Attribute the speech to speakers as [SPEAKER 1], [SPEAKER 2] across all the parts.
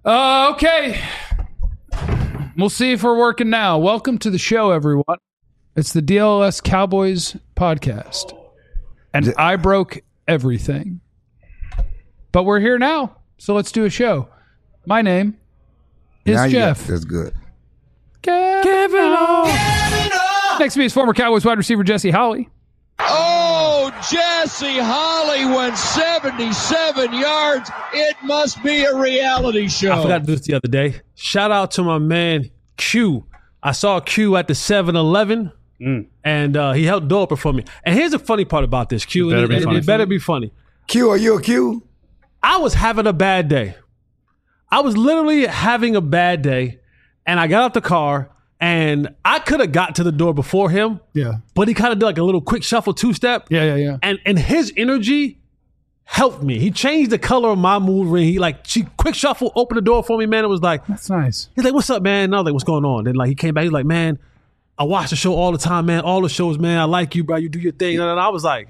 [SPEAKER 1] Okay. We'll see if we're working now. Welcome to the show, everyone. It's the DLS Cowboys podcast. And I broke everything. But we're here now, so let's do a show. My name is Jeff.
[SPEAKER 2] That's good.
[SPEAKER 1] Kevin O. Next to me is former Cowboys wide receiver Jesse Holley.
[SPEAKER 3] Oh, Jesse Holley went 77 yards. It must be a reality show.
[SPEAKER 4] I forgot to do this the other day. Shout out to my man, Q. I saw Q at the 7-Eleven, and he helped door open for me. And here's the funny part about this, Q. It better be funny.
[SPEAKER 2] Q, are you a Q?
[SPEAKER 4] I was having a bad day. I was literally having a bad day, and I got out the car, and I could have got to the door before him.
[SPEAKER 1] Yeah.
[SPEAKER 4] But he kind of did like a little quick shuffle two-step.
[SPEAKER 1] Yeah.
[SPEAKER 4] And his energy helped me. He changed the color of my mood ring. She quick shuffle, opened the door for me, man. It was like,
[SPEAKER 1] that's nice.
[SPEAKER 4] He's like, what's up, man? And I was like, what's going on? Then like he came back, he was like, man, I watch the show all the time, man. All the shows, man. I like you, bro. You do your thing. And I was like,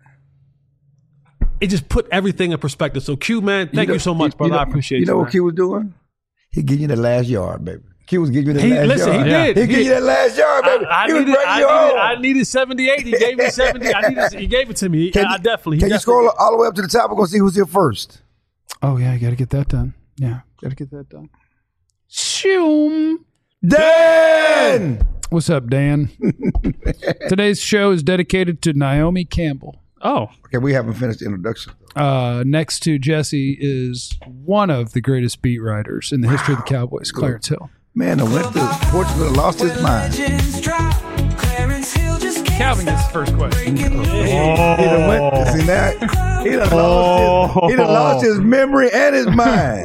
[SPEAKER 4] it just put everything in perspective. So Q, man, thank you so much, brother. I appreciate you.
[SPEAKER 2] You know what
[SPEAKER 4] man.
[SPEAKER 2] Q was doing? He giving you the last yard, baby. Q was giving you the last yard.
[SPEAKER 4] He did.
[SPEAKER 2] He gave you that last yard, baby.
[SPEAKER 4] I needed 78. He gave me 70. He gave it to me.
[SPEAKER 2] Can you scroll all the way up to the top? We're going to see who's here first.
[SPEAKER 1] Oh, yeah, you got to get that done. Yeah, got to get that done. Shoom.
[SPEAKER 2] Dan!
[SPEAKER 1] What's up, Dan? Today's show is dedicated to Naomi Campbell.
[SPEAKER 4] Oh.
[SPEAKER 2] Okay, we haven't finished the introduction.
[SPEAKER 1] Next to Jesse is one of the greatest beat writers in the history of the Cowboys, Clarence Hill.
[SPEAKER 2] Man, the went to Portugal lost his mind.
[SPEAKER 1] Calvin gets the first question.
[SPEAKER 2] He done lost his memory and his mind.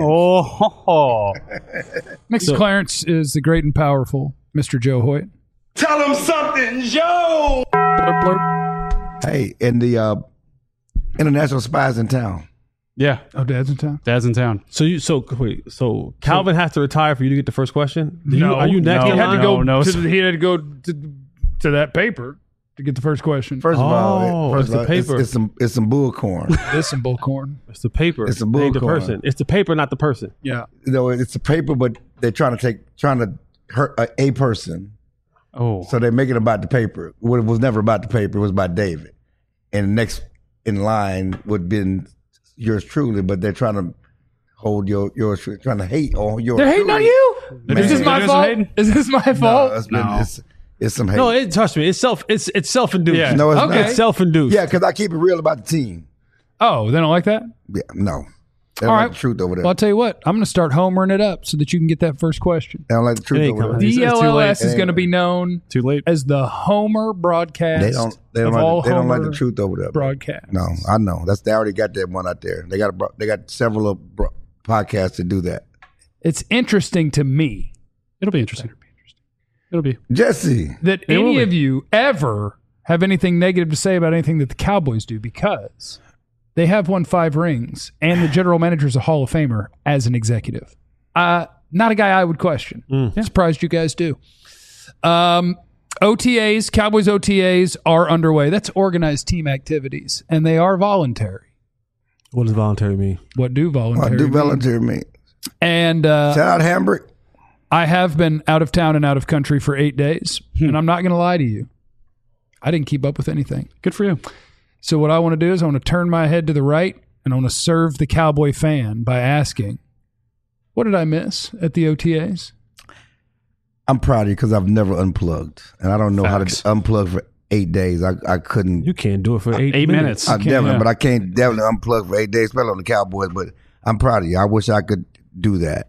[SPEAKER 1] Next to Clarence is the great and powerful Mr. Joe Hoyt.
[SPEAKER 5] Tell him something, Joe!
[SPEAKER 1] Blurp, blurp.
[SPEAKER 2] Hey, and the international spies in town.
[SPEAKER 6] Yeah.
[SPEAKER 1] Oh, Dad's in town?
[SPEAKER 6] Dad's in town.
[SPEAKER 4] So Calvin has to retire for you to get the first question? Are you next?
[SPEAKER 1] He
[SPEAKER 4] in
[SPEAKER 1] had
[SPEAKER 4] line?
[SPEAKER 1] to go.
[SPEAKER 6] No.
[SPEAKER 1] He had to go to that paper to get the first question.
[SPEAKER 2] First of all,
[SPEAKER 4] it's the paper.
[SPEAKER 2] It's some bull corn.
[SPEAKER 1] This and bullcorn.
[SPEAKER 4] It's the paper.
[SPEAKER 2] It's the bull
[SPEAKER 4] the
[SPEAKER 2] corn.
[SPEAKER 4] person. It's the paper, not the person.
[SPEAKER 1] Yeah.
[SPEAKER 2] You know, it's the paper, but they're trying to hurt a person.
[SPEAKER 6] Oh.
[SPEAKER 2] So they make it about the paper. Well, it was never about the paper. It was about David. And the next in line would have been yours truly, but they're trying to hold yours, trying to hate on yours.
[SPEAKER 1] They're hating on you? Is this my fault? Is this my fault?
[SPEAKER 2] It's some hate.
[SPEAKER 4] No, trust me. It's self-induced.
[SPEAKER 6] Yeah.
[SPEAKER 2] No, it's
[SPEAKER 1] Okay.
[SPEAKER 2] not.
[SPEAKER 4] It's self-induced.
[SPEAKER 2] Yeah, because I keep it real about the team.
[SPEAKER 1] Oh, they don't like that?
[SPEAKER 2] Yeah, no. They
[SPEAKER 1] All
[SPEAKER 2] don't
[SPEAKER 1] right.
[SPEAKER 2] like the truth over there.
[SPEAKER 1] Well, I'll tell you what. I'm going to start homering it up so that you can get that first question.
[SPEAKER 2] They don't like the truth
[SPEAKER 4] It ain't
[SPEAKER 2] over there.
[SPEAKER 4] coming.
[SPEAKER 6] It's too late.
[SPEAKER 1] DLLS is going to be known
[SPEAKER 6] Too late.
[SPEAKER 1] as the Homer broadcast.
[SPEAKER 2] They don't like the truth over there.
[SPEAKER 1] broadcast.
[SPEAKER 2] No, I know. They already got that one out there. They got several podcasts to do that.
[SPEAKER 1] It's interesting to me
[SPEAKER 6] It'll be interesting. It'll be.
[SPEAKER 2] Jesse.
[SPEAKER 1] that
[SPEAKER 6] It will
[SPEAKER 1] any
[SPEAKER 6] be.
[SPEAKER 1] of you ever have anything negative to say about anything that the Cowboys do, because they have won 5 rings and the general manager is a Hall of Famer as an executive. Not a guy I would question. Surprised you guys do. OTAs, Cowboys OTAs are underway. That's organized team activities, and they are voluntary.
[SPEAKER 4] What does voluntary mean?
[SPEAKER 1] What do voluntary
[SPEAKER 2] Do
[SPEAKER 1] mean?
[SPEAKER 2] volunteer me.
[SPEAKER 1] And
[SPEAKER 2] Shout out Hamburg.
[SPEAKER 1] I have been out of town and out of country for 8 days, and I'm not going to lie to you. I didn't keep up with anything.
[SPEAKER 6] Good for you.
[SPEAKER 1] So what I want to do is I want to turn my head to the right, and I want to serve the Cowboy fan by asking, what did I miss at the OTAs?
[SPEAKER 2] I'm proud of you because I've never unplugged, and I don't know
[SPEAKER 6] Facts.
[SPEAKER 2] how to unplug for 8 days. I couldn't.
[SPEAKER 4] You can't do it for 8
[SPEAKER 6] 8
[SPEAKER 4] minutes.
[SPEAKER 6] minutes.
[SPEAKER 2] But I can't definitely unplug for 8 days, especially on the Cowboys. But I'm proud of you. I wish I could do that.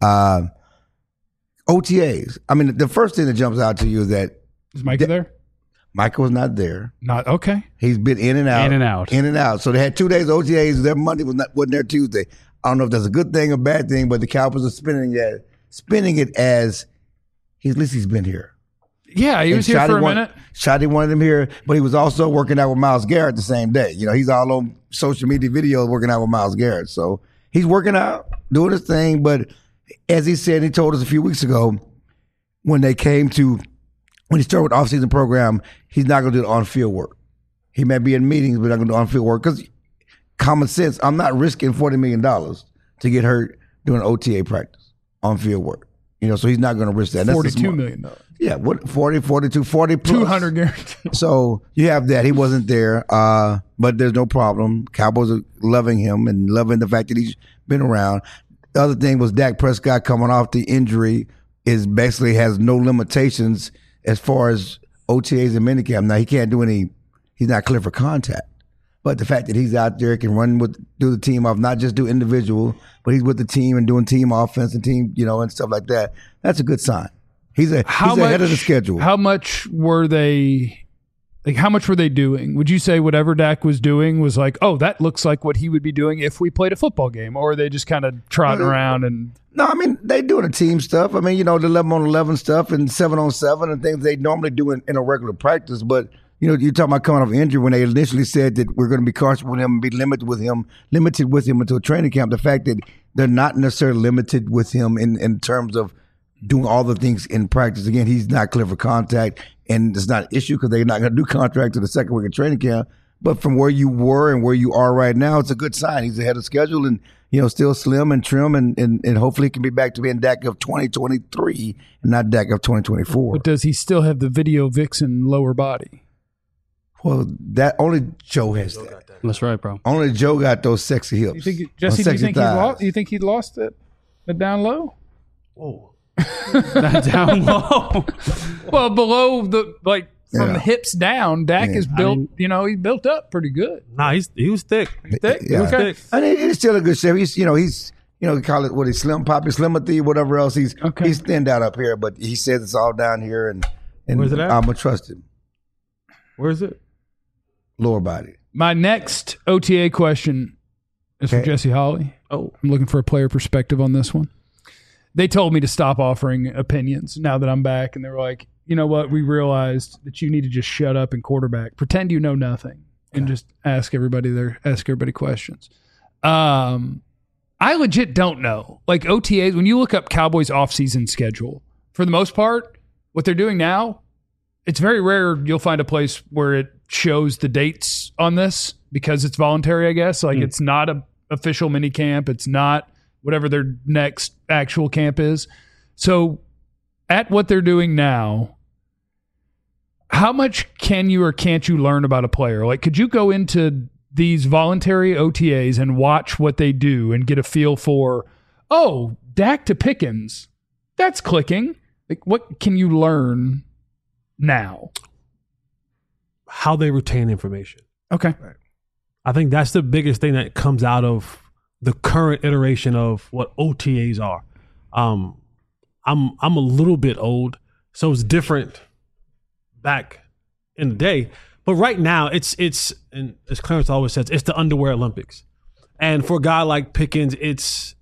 [SPEAKER 2] OTAs. I mean, the first thing that jumps out to you is that
[SPEAKER 1] Is Micah there?
[SPEAKER 2] Michael was not there.
[SPEAKER 1] Not okay.
[SPEAKER 2] He's been in and out.
[SPEAKER 6] In and out.
[SPEAKER 2] In and out. So they had 2 days OTAs. Their Monday wasn't there Tuesday. I don't know if that's a good thing or bad thing, but the Cowboys are spinning it as at least he's been here.
[SPEAKER 1] Yeah, he was here for a minute.
[SPEAKER 2] Shotty wanted him here, but he was also working out with Myles Garrett the same day. You know, he's all on social media videos working out with Myles Garrett. So he's working out, doing his thing. But as he said, he told us a few weeks ago, when he started with the offseason program, he's not going to do the on-field work. He may be in meetings, but not going to do on-field work. Because common sense, I'm not risking $40 million to get hurt doing OTA practice on field work. You know, so he's not going to risk that. That's
[SPEAKER 1] $42 million.
[SPEAKER 2] Yeah, what 40, 42, 40 plus.
[SPEAKER 1] 200 guaranteed.
[SPEAKER 2] So you have that. He wasn't there, but there's no problem. Cowboys are loving him and loving the fact that he's been around. The other thing was Dak Prescott coming off the injury is basically has no limitations as far as OTAs and minicamp. Now he can't do any. He's not clear for contact. But the fact that he's out there can do the team off, not just do individual, but he's with the team and doing team offense and team, you know, and stuff like that. That's a good sign. He's ahead of the schedule.
[SPEAKER 1] How much were they doing? Would you say whatever Dak was doing was like, oh, that looks like what he would be doing if we played a football game? Or are they just kind of trotting around and...
[SPEAKER 2] No, I mean, they doing the team stuff. I mean, you know, the 11-on-11 stuff and 7-on-7 and things they normally do in a regular practice, but... You know, you're talking about coming off injury when they initially said that we're going to be cautious with him and be limited with him until training camp. The fact that they're not necessarily limited with him in terms of doing all the things in practice. Again, he's not clear for contact, and it's not an issue because they're not going to do contact to the second week of training camp. But from where you were and where you are right now, it's a good sign. He's ahead of schedule and, you know, still slim and trim and hopefully can be back to being Dak of 2023 and not Dak of 2024.
[SPEAKER 1] But does he still have the video vixen lower body?
[SPEAKER 2] Well, that only Joe has that.
[SPEAKER 6] That's right, bro.
[SPEAKER 2] Only Joe got those sexy hips.
[SPEAKER 1] You think, Jesse, do you think he lost it down low?
[SPEAKER 4] Whoa.
[SPEAKER 6] That down low.
[SPEAKER 1] Well, below from the hips down, Dak is built. He's built up pretty good.
[SPEAKER 4] Nah, he was thick.
[SPEAKER 1] Thick.
[SPEAKER 2] Yeah.
[SPEAKER 1] Okay.
[SPEAKER 2] I mean, he's still a good shape. He's call it what he's slim, poppy, slimothy, whatever else. He's thinned out up here, but he says it's all down here, and
[SPEAKER 4] Where's it at?
[SPEAKER 2] I'm gonna trust him.
[SPEAKER 4] Where is it?
[SPEAKER 2] Lower body.
[SPEAKER 1] My next OTA question is for Jesse Holley.
[SPEAKER 4] Oh,
[SPEAKER 1] I'm looking for a player perspective on this one. They told me to stop offering opinions now that I'm back, and they were like, you know what? We realized that you need to just shut up and quarterback. Pretend you know nothing and just ask everybody questions. I legit don't know. Like OTAs, when you look up Cowboys offseason schedule, for the most part, what they're doing now, it's very rare you'll find a place where it shows the dates on this because it's voluntary, I guess. Like it's not an official mini camp. It's not whatever their next actual camp is. So at what they're doing now, how much can you or can't you learn about a player? Like, could you go into these voluntary OTAs and watch what they do and get a feel for, oh, Dak to Pickens, that's clicking. Like, what can you learn now?
[SPEAKER 4] how they retain information.
[SPEAKER 1] Okay.
[SPEAKER 2] Right.
[SPEAKER 4] I think that's the biggest thing that comes out of the current iteration of what OTAs are. I'm a little bit old, so it's different back in the day. But right now, it's and as Clarence always says, it's the underwear Olympics. And for a guy like Pickens, it's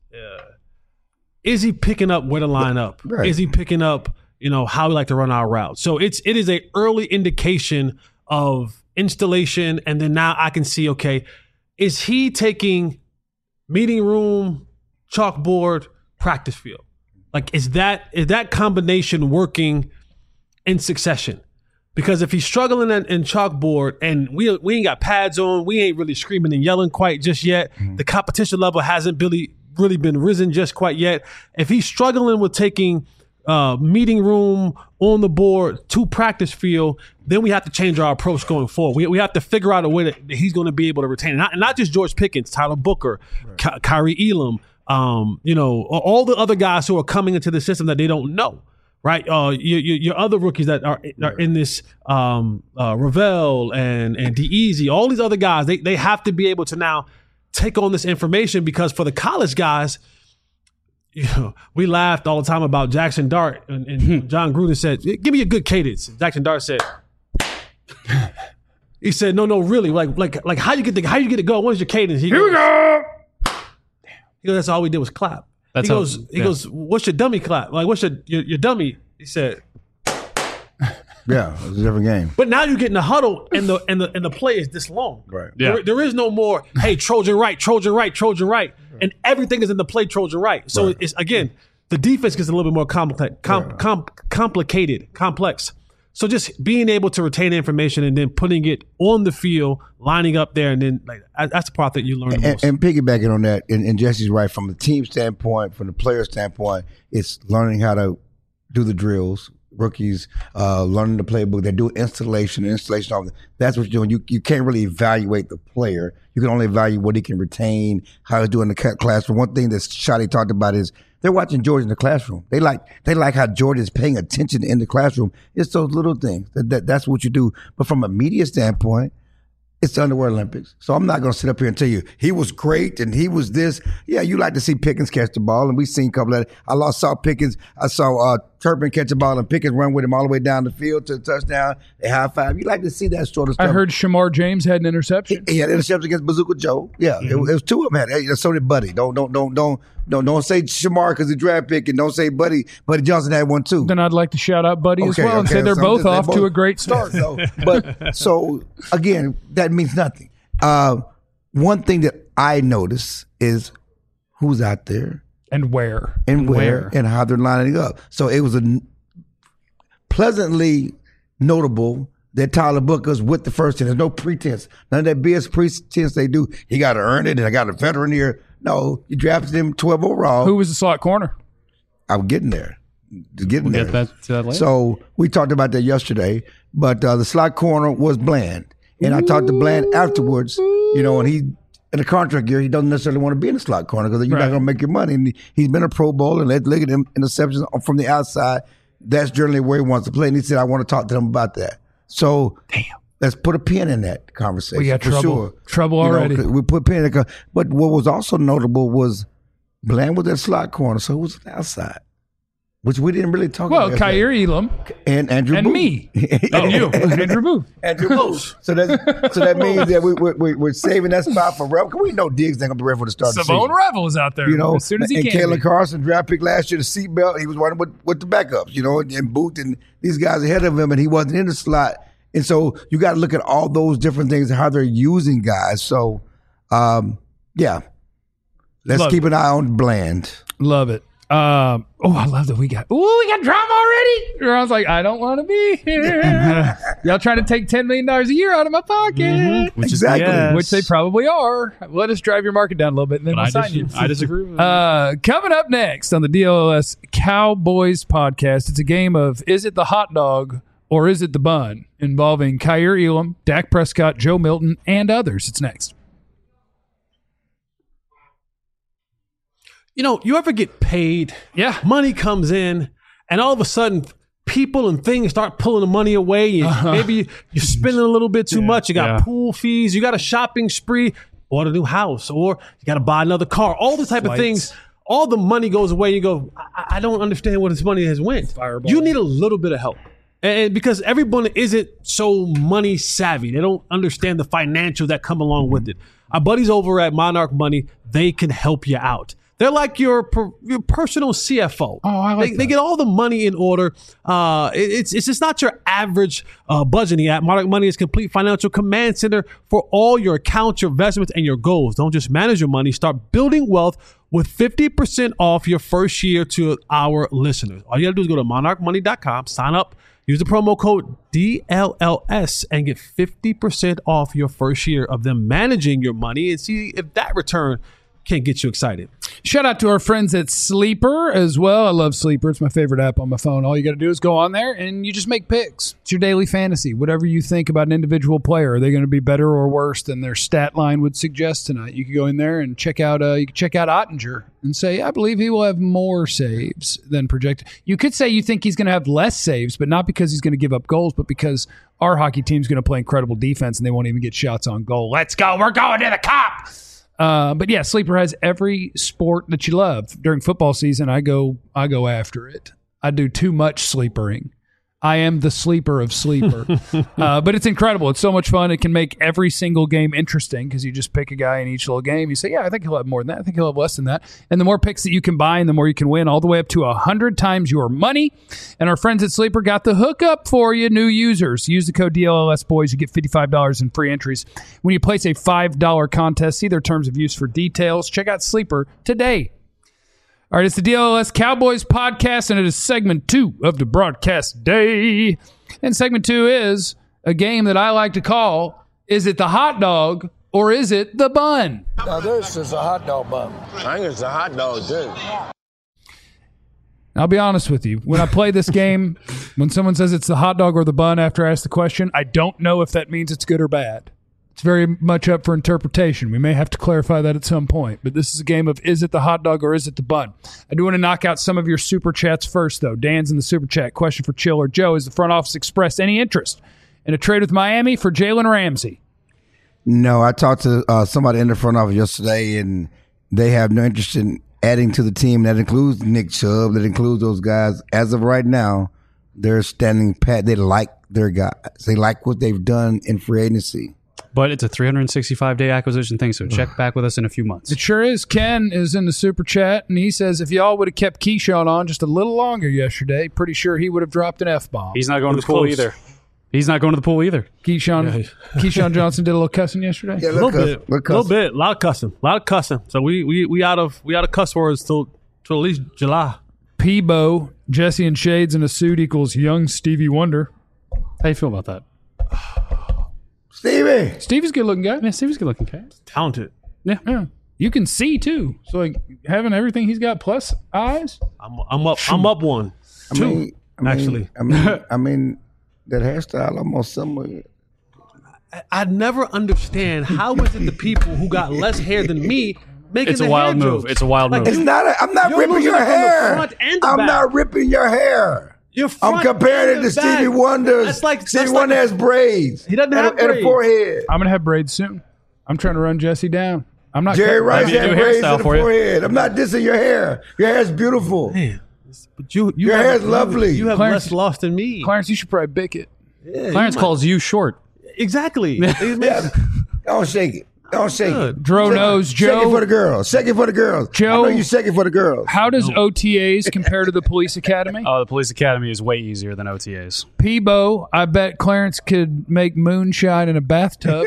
[SPEAKER 4] is he picking up where to line up?
[SPEAKER 2] Right.
[SPEAKER 4] Is he picking up, how we like to run our routes? So it is a early indication of installation, and then now I can see, okay, is he taking meeting room, chalkboard, practice field? Like, is that combination working in succession? Because if he's struggling in chalkboard and we ain't got pads on, we ain't really screaming and yelling quite just yet. Mm-hmm. The competition level hasn't really been risen just quite yet. If he's struggling with taking meeting room on the board to practice field, then we have to change our approach going forward. We have to figure out a way that he's going to be able to retain it. Not just George Pickens, Tyler Booker, right. Kyrie Elam, all the other guys who are coming into the system that they don't know. Right, your other rookies that are in this, Ravel and D-Easy, all these other guys, they have to be able to now take on this information, because for the college guys, we laughed all the time about Jackson Dart, and John Gruden said, "Give me a good cadence." And Jackson Dart said, "He said, no, really, like how you get it going? What is your cadence?" Here we go. He goes, "That's all we did was clap." He goes, "What's your dummy clap? Like, what's your dummy?" He said,
[SPEAKER 2] "Yeah, it's a different game."
[SPEAKER 4] But now you get in the huddle, and the play is this long.
[SPEAKER 2] Right.
[SPEAKER 6] Yeah.
[SPEAKER 4] There is no more, hey, Trojan right, and everything is in the play Trojan right. So it's, again, the defense gets a little bit more complex. So just being able to retain information and then putting it on the field, lining up there, and then like that's the part that you learn the most.
[SPEAKER 2] And piggybacking on that, and Jesse's right, from the team standpoint, from the player standpoint, it's learning how to do the drills. Rookies learning the playbook. They do installation. That's what you're doing. You can't really evaluate the player. You can only evaluate what he can retain, how he's doing in the classroom. One thing that Shotty talked about is they're watching George in the classroom. They like how George is paying attention in the classroom. It's those little things. That's what you do. But from a media standpoint, it's the Underwear Olympics. So I'm not going to sit up here and tell you he was great and he was this. Yeah, you like to see Pickens catch the ball, and we've seen a couple of that. I saw Pickens. I saw Turpin catch the ball and Pickens run with him all the way down the field to the touchdown. They high five. You like to see that sort of stuff.
[SPEAKER 1] I heard Shamar James had an interception.
[SPEAKER 2] He had an interception against Bazooka Joe. Yeah, it was two of them. So did Buddy. Don't say Shamar because he draft pick, and don't say Buddy. Buddy Johnson had one too.
[SPEAKER 1] Then I'd like to shout out Buddy as well and say they're both off to a great start.
[SPEAKER 2] So again, that means nothing. One thing that I notice is who's out there
[SPEAKER 1] and where
[SPEAKER 2] and how they're lining up. So it was pleasantly notable that Tyler Booker's with the first team. There's no pretense. None of that BS pretense they do. He got to earn it, and I got a veteran here. No, you drafted him 12 overall.
[SPEAKER 1] Who was the slot corner?
[SPEAKER 2] I'm getting there.
[SPEAKER 6] We'll get that later.
[SPEAKER 2] So we talked about that yesterday, but the slot corner was Bland. And I talked to Bland afterwards, and he, in the contract year, he doesn't necessarily want to be in the slot corner because you're not going to make your money. And he's been a Pro Bowl, and let's look at him interceptions from the outside. That's generally where he wants to play. And he said, I want to talk to them about that. So let's put a pin in that conversation.
[SPEAKER 1] We got trouble already.
[SPEAKER 2] We put a pin in it. But what was also notable was Bland was at slot corner, so it was outside, which we didn't really talk about.
[SPEAKER 1] Well, Kaiir Elam
[SPEAKER 2] and Andrew
[SPEAKER 1] and
[SPEAKER 2] Booth.
[SPEAKER 1] Me and you, Andrew Booth.
[SPEAKER 2] Andrew Booth. So that means that we're saving that spot for Revel. We know Diggs ain't gonna be ready for the start of the season.
[SPEAKER 1] Savone Revel is out there, as soon as he can.
[SPEAKER 2] And Kalen Carson, draft pick last year, the seatbelt, he was running with the backups, and Booth and these guys ahead of him, and he wasn't in the slot. And so you got to look at all those different things and how they're using guys. So, let's keep an eye on Bland.
[SPEAKER 1] Love it. I love that we got drama already. I was like, I don't want to be here. Y'all trying to take $10 million a year out of my pocket.
[SPEAKER 6] Mm-hmm.
[SPEAKER 2] Exactly.
[SPEAKER 1] Which they probably are. Let us drive your market down a little bit, and then we'll sign you.
[SPEAKER 6] I disagree with that.
[SPEAKER 1] Coming up next on the DLS Cowboys podcast, it's a game of is it the hot dog or is it the bun, involving Kaiir Elam, Dak Prescott, Joe Milton, and others. It's next.
[SPEAKER 4] You ever get paid?
[SPEAKER 1] Yeah.
[SPEAKER 4] Money comes in, and all of a sudden, people and things start pulling the money away. Maybe you're spending a little bit too much. You got pool fees. You got a shopping spree. Bought a new house, or you got to buy another car. All the type of things. All the money goes away. You go, I don't understand where this money has went.
[SPEAKER 1] Fireball.
[SPEAKER 4] You need a little bit of help. And because everyone isn't so money savvy. They don't understand the financials that come along with it. Our buddies over at Monarch Money, they can help you out. They're like your personal CFO.
[SPEAKER 1] Oh, I like that.
[SPEAKER 4] They get all the money in order. It's just not your average budgeting app. Monarch Money is complete financial command center for all your accounts, your investments, and your goals. Don't just manage your money. Start building wealth with 50% off your first year to our listeners. All you got to do is go to monarchmoney.com, sign up, use the promo code DLLS, and get 50% off your first year of them managing your money, and see if that return can't get you excited.
[SPEAKER 1] Shout out to our friends at Sleeper as well. I love Sleeper. It's my favorite app on my phone. All you got to do is go on there and you just make picks. It's your daily fantasy. Whatever you think about an individual player, are they going to be better or worse than their stat line would suggest tonight? You can go in there and check out Ottinger and say, I believe he will have more saves than projected. You could say you think he's going to have less saves, but not because he's going to give up goals, but because our hockey team's going to play incredible defense and they won't even get shots on goal. Let's go. We're going to the Cup. But yeah, Sleeper has every sport that you love. During football season, I go after it. I do too much sleepering. I am the sleeper of Sleeper. But it's incredible. It's so much fun. It can make every single game interesting because you just pick a guy in each little game. You say, yeah, I think he'll have more than that. I think he'll have less than that. And the more picks that you can buy and the more you can win, all the way up to 100 times your money. And our friends at Sleeper got the hookup for you, new users. Use the code DLLS Boys. You get $55 in free entries. When you place a $5 contest, see their terms of use for details. Check out Sleeper today. All right, it's the DLS Cowboys podcast, and it is segment 2 of the broadcast day. And segment 2 is a game that I like to call, is it the hot dog or is it the bun?
[SPEAKER 7] Now this is a hot dog bun.
[SPEAKER 5] I think it's a hot dog, too.
[SPEAKER 1] I'll be honest with you. When I play this game, when someone says it's the hot dog or the bun after I ask the question, I don't know if that means it's good or bad. It's very much up for interpretation. We may have to clarify that at some point. But this is a game of is it the hot dog or is it the bun? I do want to knock out some of your super chats first, though. Dan's in the super chat. Question for Chill or Joe. Has the front office expressed any interest in a trade with Miami for Jalen Ramsey?
[SPEAKER 2] No, I talked to somebody in the front office yesterday, and they have no interest in adding to the team. That includes Nick Chubb. That includes those guys. As of right now, they're standing pat. They like their guys. They like what they've done in free agency.
[SPEAKER 6] But it's a 365-day acquisition thing, so check back with us in a few months.
[SPEAKER 1] It sure is. Ken is in the super chat, and he says if y'all would have kept Keyshawn on just a little longer yesterday, pretty sure he would have dropped an F-bomb.
[SPEAKER 6] He's not going to the pool either. He's not going to the pool either.
[SPEAKER 1] Keyshawn Johnson did a little cussing yesterday.
[SPEAKER 2] Yeah,
[SPEAKER 4] A little bit. A lot of cussing. So we out of cuss words till at least July.
[SPEAKER 1] Peebo, Jesse and Shades in a suit equals young Stevie Wonder.
[SPEAKER 6] How you feel about that?
[SPEAKER 1] Stevie's a good looking guy.
[SPEAKER 6] Yeah, Stevie's a good looking guy.
[SPEAKER 4] Talented.
[SPEAKER 1] Yeah. You can see too. So like having everything he's got plus eyes.
[SPEAKER 4] I'm up one. Actually.
[SPEAKER 2] I mean, that hairstyle almost similar.
[SPEAKER 4] I never understand how is it the people who got less hair than me making
[SPEAKER 6] It's a
[SPEAKER 4] the
[SPEAKER 6] wild
[SPEAKER 4] hair
[SPEAKER 6] move.
[SPEAKER 4] jokes?
[SPEAKER 6] It's a wild move.
[SPEAKER 2] It's not. I'm not
[SPEAKER 4] You're
[SPEAKER 2] ripping
[SPEAKER 4] losing
[SPEAKER 2] your
[SPEAKER 4] it from the
[SPEAKER 2] hair.
[SPEAKER 4] front and the
[SPEAKER 2] I'm
[SPEAKER 4] back.
[SPEAKER 2] not ripping your hair.
[SPEAKER 4] Your
[SPEAKER 2] I'm
[SPEAKER 4] front
[SPEAKER 2] comparing
[SPEAKER 4] and
[SPEAKER 2] it to
[SPEAKER 4] the back.
[SPEAKER 2] Stevie Wonder. Stevie Wonder has braids.
[SPEAKER 4] He doesn't have
[SPEAKER 2] and
[SPEAKER 4] braids.
[SPEAKER 2] a forehead.
[SPEAKER 1] I'm gonna have braids soon. I'm trying to run Jesse down. I'm not
[SPEAKER 2] Jerry Rice
[SPEAKER 6] Maybe a
[SPEAKER 2] had
[SPEAKER 6] new
[SPEAKER 2] braids
[SPEAKER 6] hairstyle
[SPEAKER 2] in the
[SPEAKER 6] for you.
[SPEAKER 2] forehead. I'm not dissing your hair. Your hair is beautiful.
[SPEAKER 4] Man, but your
[SPEAKER 2] hair is lovely.
[SPEAKER 4] You have
[SPEAKER 1] Clarence-
[SPEAKER 4] less loss than me.
[SPEAKER 1] Clarence, you should probably bick it.
[SPEAKER 6] Clarence calls you short.
[SPEAKER 4] Exactly.
[SPEAKER 2] Yeah. Don't shake it. Don't shake it.
[SPEAKER 1] Dro knows.
[SPEAKER 2] Shake it for
[SPEAKER 1] Joe,
[SPEAKER 2] the girls. Shake it for the girls.
[SPEAKER 1] Joe-
[SPEAKER 2] I know you shake it for the girls.
[SPEAKER 1] how does OTAs compare to the police academy?
[SPEAKER 6] Oh, the police academy is way easier than OTAs.
[SPEAKER 1] Peebo, I bet Clarence could make moonshine in a bathtub.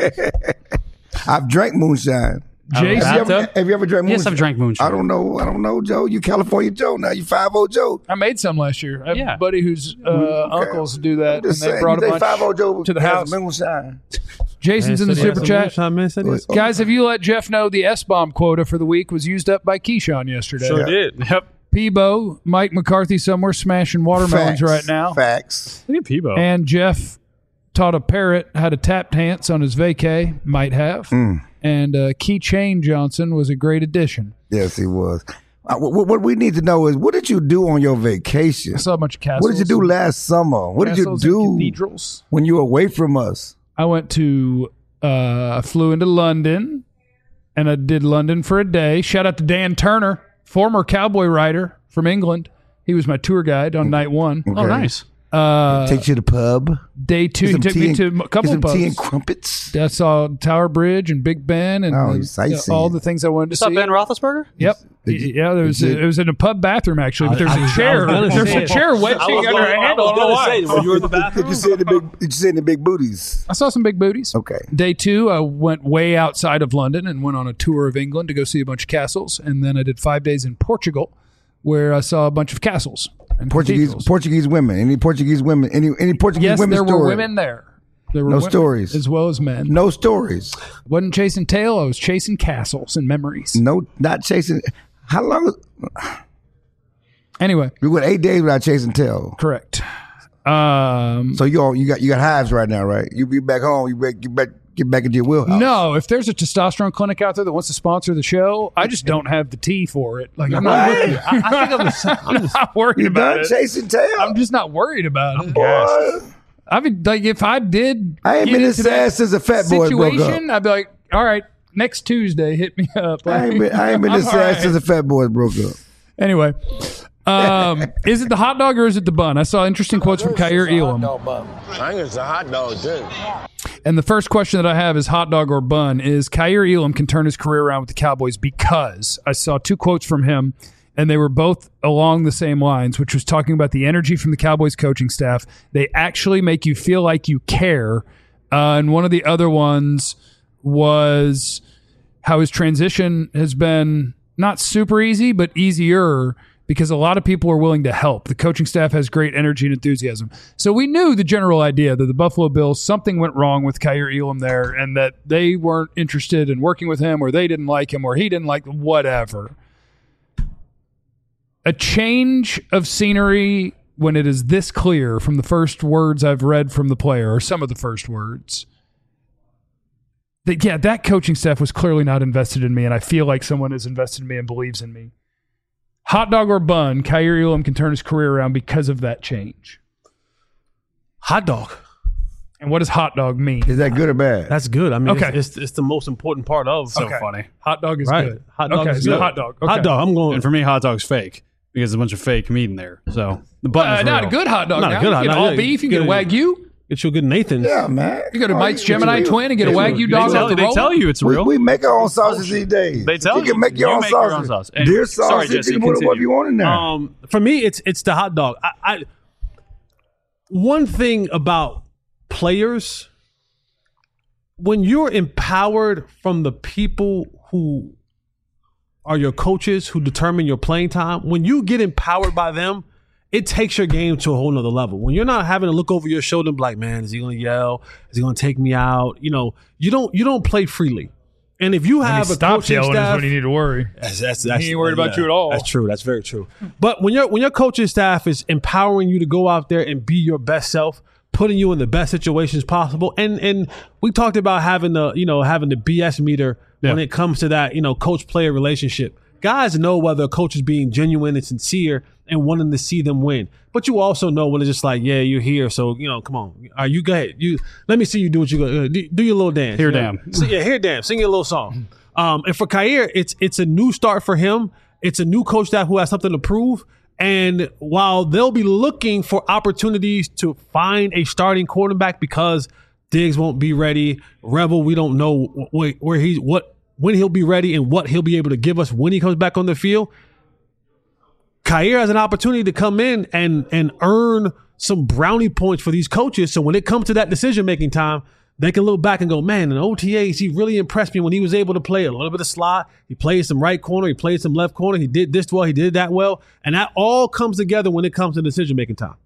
[SPEAKER 2] I've drank moonshine.
[SPEAKER 1] Jason,
[SPEAKER 2] Have you ever drank moonshine?
[SPEAKER 6] Yes, I've drank moonshine.
[SPEAKER 2] I don't know, Joe. You California Joe now. You 5-0 Joe.
[SPEAKER 1] I made some last year. I have
[SPEAKER 6] Yeah.
[SPEAKER 1] a buddy whose uncles do that, and
[SPEAKER 2] Just
[SPEAKER 1] they
[SPEAKER 2] saying,
[SPEAKER 1] brought a
[SPEAKER 2] you
[SPEAKER 1] bunch
[SPEAKER 2] say 5-0 Joe
[SPEAKER 1] to the
[SPEAKER 2] has
[SPEAKER 1] house.
[SPEAKER 2] moonshine.
[SPEAKER 1] Jason's in the super chat.
[SPEAKER 2] Oh.
[SPEAKER 1] Guys, have you let Jeff know the S-bomb quota for the week was used up by Keyshawn yesterday?
[SPEAKER 4] Sure did.
[SPEAKER 6] Yep.
[SPEAKER 1] Peebo, Mike McCarthy somewhere smashing watermelons right now.
[SPEAKER 2] Facts.
[SPEAKER 6] Look at Peebo.
[SPEAKER 1] And Jeff taught a parrot how to tap dance on his vacay. Might have. And Keychain Johnson was a great addition.
[SPEAKER 2] Yes, he was. What we need to know is, what did you do on your vacation?
[SPEAKER 1] I saw a bunch of castles.
[SPEAKER 2] What did you do last summer? What did you
[SPEAKER 1] Castles and
[SPEAKER 2] do
[SPEAKER 1] cathedrals.
[SPEAKER 2] when you were away from us?
[SPEAKER 1] I went to, I flew into London, and I did London for a day. Shout out to Dan Turner, former cowboy rider from England. He was my tour guide on night one.
[SPEAKER 6] Oh, nice.
[SPEAKER 2] Take you to the pub.
[SPEAKER 1] Day two, he took me to a couple
[SPEAKER 2] some
[SPEAKER 1] pubs.
[SPEAKER 2] tea and crumpets.
[SPEAKER 1] I saw Tower Bridge and Big Ben and
[SPEAKER 2] Oh, sightseeing.
[SPEAKER 1] all the things I wanted to
[SPEAKER 6] You saw
[SPEAKER 1] see.
[SPEAKER 6] Ben Roethlisberger?
[SPEAKER 1] Yep. Yeah, there was it was in a pub bathroom actually, but there's a chair. There's a chair wedging under a handle. I don't know why.
[SPEAKER 4] You were in the bathroom.
[SPEAKER 2] Did you see any big booties?
[SPEAKER 1] I saw some big booties.
[SPEAKER 2] Okay.
[SPEAKER 1] Day two, I went way outside of London and went on a tour of England to go see a bunch of castles, and then I did 5 days in Portugal, where I saw a bunch of castles and cathedrals.
[SPEAKER 2] Portuguese women. Any Portuguese women? Any Portuguese
[SPEAKER 1] Yes,
[SPEAKER 2] women?
[SPEAKER 1] there were
[SPEAKER 2] story?
[SPEAKER 1] women there. There were
[SPEAKER 2] No
[SPEAKER 1] women
[SPEAKER 2] stories.
[SPEAKER 1] as well as men.
[SPEAKER 2] No stories.
[SPEAKER 1] Wasn't chasing tail. I was chasing castles and memories.
[SPEAKER 2] No, not chasing. How long?
[SPEAKER 1] Anyway,
[SPEAKER 2] We went 8 days without chasing tail.
[SPEAKER 1] correct.
[SPEAKER 2] So you got hives right now, right? You be back home. You get back into your wheelhouse.
[SPEAKER 1] No, if there's a testosterone clinic out there that wants to sponsor the show, I just don't have the tea for it. Like I'm not worried. I'm not worried
[SPEAKER 2] You
[SPEAKER 1] about
[SPEAKER 2] done
[SPEAKER 1] it.
[SPEAKER 2] chasing tail?
[SPEAKER 1] I'm just not worried about it.
[SPEAKER 2] Boy,
[SPEAKER 1] I mean, like if I did,
[SPEAKER 2] I ain't
[SPEAKER 1] get
[SPEAKER 2] been
[SPEAKER 1] into
[SPEAKER 2] this
[SPEAKER 1] that
[SPEAKER 2] sad since the Fat Boys broke up.
[SPEAKER 1] situation, I'd be like, all right, next Tuesday, hit me up.
[SPEAKER 2] I ain't been this
[SPEAKER 1] I'm
[SPEAKER 2] sad
[SPEAKER 1] all right.
[SPEAKER 2] since the Fat Boys broke up.
[SPEAKER 1] Anyway, is it the hot dog or is it the bun? I saw interesting quotes from Kyer Elam.
[SPEAKER 5] I think it's a hot dog, too.
[SPEAKER 1] And the first question that I have is hot dog or bun is Kyer Elam can turn his career around with the Cowboys because I saw two quotes from him and they were both along the same lines, which was talking about the energy from the Cowboys coaching staff. They actually make you feel like you care. And one of the other ones was how his transition has been not super easy, but easier because a lot of people are willing to help. The coaching staff has great energy and enthusiasm. So we knew the general idea that the Buffalo Bills, something went wrong with Kaiir Elam there, and that they weren't interested in working with him, or they didn't like him, or he didn't like them, whatever. A change of scenery when it is this clear from the first words I've read from the player, or some of the first words, that coaching staff was clearly not invested in me, and I feel like someone is invested in me and believes in me. Hot dog or bun, Kaiir Elam can turn his career around because of that change.
[SPEAKER 4] Hot dog.
[SPEAKER 1] And what does hot dog mean?
[SPEAKER 2] Is that good or bad?
[SPEAKER 4] That's good. I mean,
[SPEAKER 1] Okay.
[SPEAKER 4] it's the most important part of.
[SPEAKER 6] So funny.
[SPEAKER 1] Hot dog is
[SPEAKER 4] Right.
[SPEAKER 1] good.
[SPEAKER 4] Hot dog
[SPEAKER 1] okay,
[SPEAKER 4] is
[SPEAKER 1] so
[SPEAKER 4] good.
[SPEAKER 1] hot dog. Okay.
[SPEAKER 4] Hot dog. I'm going.
[SPEAKER 6] And for me, hot dog's fake because there's a bunch of fake meat in there. So the bun is
[SPEAKER 1] Not
[SPEAKER 6] real.
[SPEAKER 1] a good hot dog.
[SPEAKER 4] Not a
[SPEAKER 1] now.
[SPEAKER 4] good
[SPEAKER 1] You
[SPEAKER 4] hot
[SPEAKER 1] get
[SPEAKER 4] dog.
[SPEAKER 1] all
[SPEAKER 4] Yeah,
[SPEAKER 1] beef. You
[SPEAKER 4] get
[SPEAKER 1] get a
[SPEAKER 4] it.
[SPEAKER 1] Wagyu.
[SPEAKER 4] Get you a good Nathan's.
[SPEAKER 2] Yeah, man.
[SPEAKER 1] You go to
[SPEAKER 2] Oh,
[SPEAKER 1] Mike's
[SPEAKER 2] you-
[SPEAKER 1] Gemini
[SPEAKER 2] you-
[SPEAKER 1] Twin and get a Wagyu dog off the
[SPEAKER 6] They
[SPEAKER 1] roll.
[SPEAKER 6] tell you it's
[SPEAKER 2] We,
[SPEAKER 6] real.
[SPEAKER 2] we make our own sausage these days.
[SPEAKER 6] They tell
[SPEAKER 2] you can
[SPEAKER 6] you.
[SPEAKER 2] make your
[SPEAKER 6] You
[SPEAKER 2] own
[SPEAKER 6] make your
[SPEAKER 2] sausage.
[SPEAKER 6] own sauce. Anyway,
[SPEAKER 2] Deer
[SPEAKER 6] sorry,
[SPEAKER 2] sausage.
[SPEAKER 6] Jesse,
[SPEAKER 2] You can put whatever
[SPEAKER 6] continue.
[SPEAKER 2] you want in there.
[SPEAKER 4] For me, it's the hot dog. I one thing about players, when you're empowered from the people who are your coaches, who determine your playing time, when you get empowered by them, it takes your game to a whole nother level. When you're not having to look over your shoulder and be like, man, is he going to yell? Is he going to take me out? You don't play freely. And if you have a
[SPEAKER 1] Stop
[SPEAKER 4] coaching
[SPEAKER 1] yelling
[SPEAKER 4] staff,
[SPEAKER 1] is when you need to worry.
[SPEAKER 4] that's
[SPEAKER 1] He ain't worried about you at all.
[SPEAKER 4] That's true. That's very true. But when your coaching staff is empowering you to go out there and be your best self, putting you in the best situations possible, and we talked about having the BS meter when it comes to that coach player relationship. Guys know whether a coach is being genuine and sincere and wanting to see them win. But you also know when it's just like, yeah, you're here, so come on, are you good? Let me see you do what you go. Do your little dance.
[SPEAKER 6] Here, damn.
[SPEAKER 4] Here, damn. Sing your little song. And for Kaiir, it's a new start for him. It's a new coach staff who has something to prove. And while they'll be looking for opportunities to find a starting quarterback because Diggs won't be ready, Revel, we don't know when he'll be ready and what he'll be able to give us when he comes back on the field. Kaiir has an opportunity to come in and earn some brownie points for these coaches. So when it comes to that decision-making time, they can look back and go, man, in OTAs, he really impressed me when he was able to play a little bit of slot. He played some right corner. He played some left corner. He did this well. He did that well. And that all comes together when it comes to decision-making time.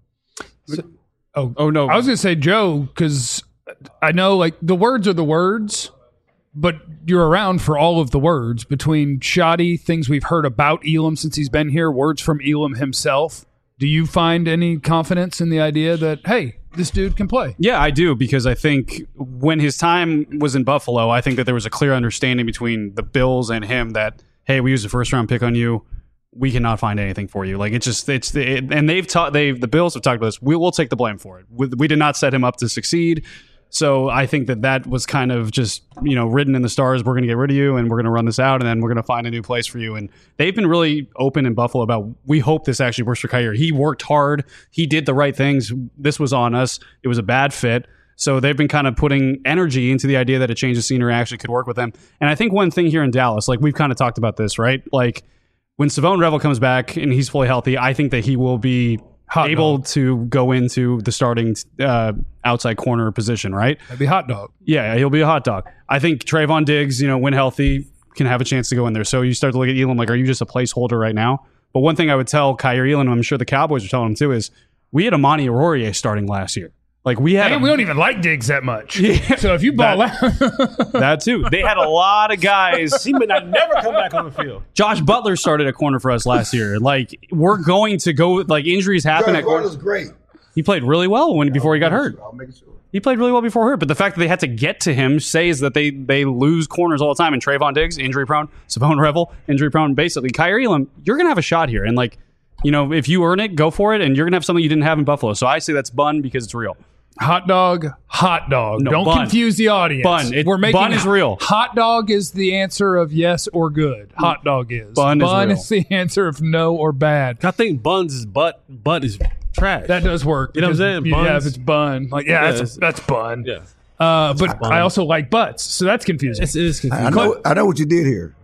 [SPEAKER 6] Oh no.
[SPEAKER 1] I was going to say, Joe, because I know like the words are the words, but you're around for all of the words between shoddy, things we've heard about Elam since he's been here, words from Elam himself. Do you find any confidence in the idea that, hey, this dude can play?
[SPEAKER 6] Yeah, I do, because I think when his time was in Buffalo, I think that there was a clear understanding between the Bills and him that, hey, we used a first-round pick on you. We cannot find anything for you. Like, and the Bills have talked about this. We will take the blame for it. We did not set him up to succeed. So I think that was kind of just, written in the stars. We're going to get rid of you and we're going to run this out and then we're going to find a new place for you. And they've been really open in Buffalo about, we hope this actually works for Kaiir. He worked hard. He did the right things. This was on us. It was a bad fit. So they've been kind of putting energy into the idea that a change of scenery actually could work with them. And I think one thing here in Dallas, like we've kind of talked about this, right? Like when Savone Revel comes back and he's fully healthy, I think that he will be able to go into the starting outside corner position, right?
[SPEAKER 1] That'd be hot dog.
[SPEAKER 6] Yeah, he'll be a hot dog. I think Trayvon Diggs, when healthy, can have a chance to go in there. So you start to look at Elam like, are you just a placeholder right now? But one thing I would tell Kaiir Elam, I'm sure the Cowboys are telling him too, is we had Amani Arourier starting last year. Like we had,
[SPEAKER 1] we don't even like Diggs that much.
[SPEAKER 6] Yeah.
[SPEAKER 1] So if you ball out,
[SPEAKER 6] that too. They had a lot of guys.
[SPEAKER 4] He may not never come back on the field.
[SPEAKER 6] Josh Butler started a corner for us last year. Like we're going to go. Like injuries happen at corner.
[SPEAKER 2] was great.
[SPEAKER 6] He played really well before he got hurt.
[SPEAKER 2] I'll make sure.
[SPEAKER 6] He played really well before hurt, but the fact that they had to get to him says that they lose corners all the time. And Trayvon Diggs, injury prone. Savone Revel, injury prone. Basically, Kaiir Elam, you're gonna have a shot here, and like if you earn it, go for it, and you're gonna have something you didn't have in Buffalo. So I say that's bun because it's real.
[SPEAKER 1] hot dog, hot dog.
[SPEAKER 6] No,
[SPEAKER 1] Don't
[SPEAKER 6] bun.
[SPEAKER 1] confuse the audience.
[SPEAKER 6] Bun. Bun is real.
[SPEAKER 1] Hot dog is the answer of yes or good. Hot dog is.
[SPEAKER 6] Bun is real.
[SPEAKER 1] is the answer of no or bad.
[SPEAKER 4] I think buns is butt is trash.
[SPEAKER 1] That does work.
[SPEAKER 4] You know what I'm
[SPEAKER 1] because,
[SPEAKER 4] saying?
[SPEAKER 1] Yeah,
[SPEAKER 4] Buns.
[SPEAKER 1] if it's bun. Like, yeah, that's bun.
[SPEAKER 4] Yeah.
[SPEAKER 1] But I also like butts, so that's confusing.
[SPEAKER 4] It is confusing.
[SPEAKER 2] I know what you did here.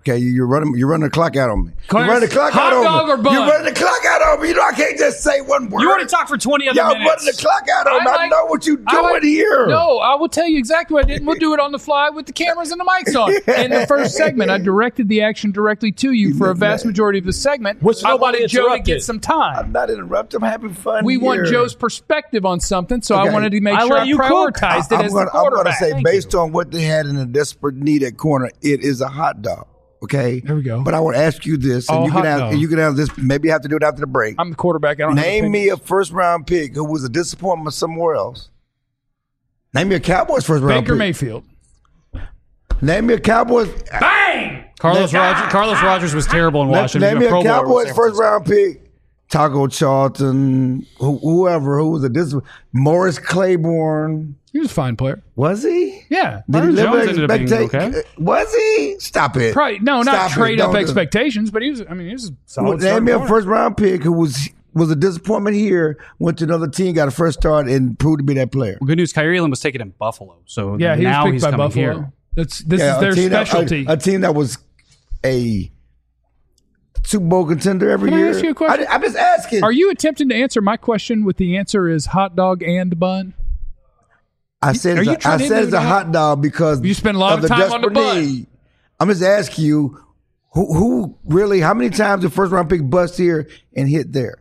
[SPEAKER 2] Okay, you're running the clock out on me.
[SPEAKER 1] Clarence,
[SPEAKER 2] You're running the clock
[SPEAKER 1] hot
[SPEAKER 2] out
[SPEAKER 1] dog
[SPEAKER 2] on me.
[SPEAKER 1] or bun?
[SPEAKER 2] You're running the clock out on me. You know I can't just say one word.
[SPEAKER 6] You want to talk for 20 other
[SPEAKER 2] Y'all
[SPEAKER 6] minutes?
[SPEAKER 2] running the clock out on me. I know what you're doing here.
[SPEAKER 1] No, I will tell you exactly what I did. And we'll do it on the fly with the cameras and the mics on. In the first segment, I directed the action directly to you for a vast majority of the segment.
[SPEAKER 4] Which
[SPEAKER 1] I
[SPEAKER 4] nobody
[SPEAKER 1] wanted Joe to
[SPEAKER 4] interrupted.
[SPEAKER 1] get some time.
[SPEAKER 2] I'm not interrupting. I'm having fun.
[SPEAKER 1] We want
[SPEAKER 2] here.
[SPEAKER 1] Joe's perspective on something, so I
[SPEAKER 2] Okay.
[SPEAKER 1] wanted to make
[SPEAKER 4] I
[SPEAKER 1] sure
[SPEAKER 4] let
[SPEAKER 1] I
[SPEAKER 4] you cook.
[SPEAKER 1] prioritized it as the
[SPEAKER 2] I'm
[SPEAKER 1] quarterback.
[SPEAKER 2] going to say,
[SPEAKER 1] Thank
[SPEAKER 2] based
[SPEAKER 1] you.
[SPEAKER 2] on what they had in a desperate need at corner, it is a hot dog. Okay,
[SPEAKER 1] There we go.
[SPEAKER 2] But I would ask you this, and
[SPEAKER 1] Oh,
[SPEAKER 2] you can
[SPEAKER 1] hot
[SPEAKER 2] have,
[SPEAKER 1] dog.
[SPEAKER 2] and you can have this. Maybe you have to do it after the break.
[SPEAKER 1] I'm the quarterback. I don't have
[SPEAKER 2] Name me
[SPEAKER 1] opinions.
[SPEAKER 2] a first round pick who was a disappointment somewhere else. Name me a Cowboys first round
[SPEAKER 1] Baker
[SPEAKER 2] pick.
[SPEAKER 1] Mayfield.
[SPEAKER 2] Name me a Cowboys.
[SPEAKER 1] Bang!
[SPEAKER 6] Carlos Rogers was terrible in Washington.
[SPEAKER 2] Name
[SPEAKER 6] He
[SPEAKER 2] me
[SPEAKER 6] was
[SPEAKER 2] a
[SPEAKER 6] Pro Bowler with
[SPEAKER 2] Cowboys
[SPEAKER 6] San
[SPEAKER 2] first
[SPEAKER 6] Francisco.
[SPEAKER 2] round pick. Taco Charlton, whoever, who was a disappointment. Morris Claiborne.
[SPEAKER 1] He was a fine player.
[SPEAKER 2] Was he?
[SPEAKER 1] Yeah.
[SPEAKER 2] Did he
[SPEAKER 6] Byron
[SPEAKER 2] live
[SPEAKER 6] Jones
[SPEAKER 2] up
[SPEAKER 6] ended up being
[SPEAKER 2] expectation?
[SPEAKER 6] okay.
[SPEAKER 2] Was he? Stop it.
[SPEAKER 1] Probably, no, not
[SPEAKER 2] Stop it.
[SPEAKER 1] trade up
[SPEAKER 2] Don't do it.
[SPEAKER 1] expectations, but he was a solid
[SPEAKER 2] Name me a
[SPEAKER 1] starting
[SPEAKER 2] first round pick who was a disappointment here, went to another team, got a first start, and proved to be that player.
[SPEAKER 6] Well, good news, Kyrie Elam was taken in Buffalo. So
[SPEAKER 1] Yeah, he
[SPEAKER 6] now
[SPEAKER 1] was
[SPEAKER 6] he's
[SPEAKER 1] picked by
[SPEAKER 6] coming
[SPEAKER 1] Buffalo.
[SPEAKER 6] here.
[SPEAKER 1] This is
[SPEAKER 2] Yeah,
[SPEAKER 1] their
[SPEAKER 2] a team
[SPEAKER 1] specialty.
[SPEAKER 2] A team that was a Super Bowl contender every
[SPEAKER 1] Can I
[SPEAKER 2] year.
[SPEAKER 1] ask you a question?
[SPEAKER 2] I'm just asking.
[SPEAKER 1] Are you attempting to answer my question with the answer is hot dog and bun?
[SPEAKER 2] I said
[SPEAKER 1] Are
[SPEAKER 2] it's
[SPEAKER 1] you
[SPEAKER 2] a,
[SPEAKER 1] trying
[SPEAKER 2] I
[SPEAKER 1] to
[SPEAKER 2] said it's
[SPEAKER 1] do
[SPEAKER 2] a
[SPEAKER 1] that?
[SPEAKER 2] hot dog because
[SPEAKER 1] You spend a lot of
[SPEAKER 2] the
[SPEAKER 1] time on the
[SPEAKER 2] desperate
[SPEAKER 1] bun.
[SPEAKER 2] need. I'm just asking you, who really? How many times did first round pick bust here and hit there?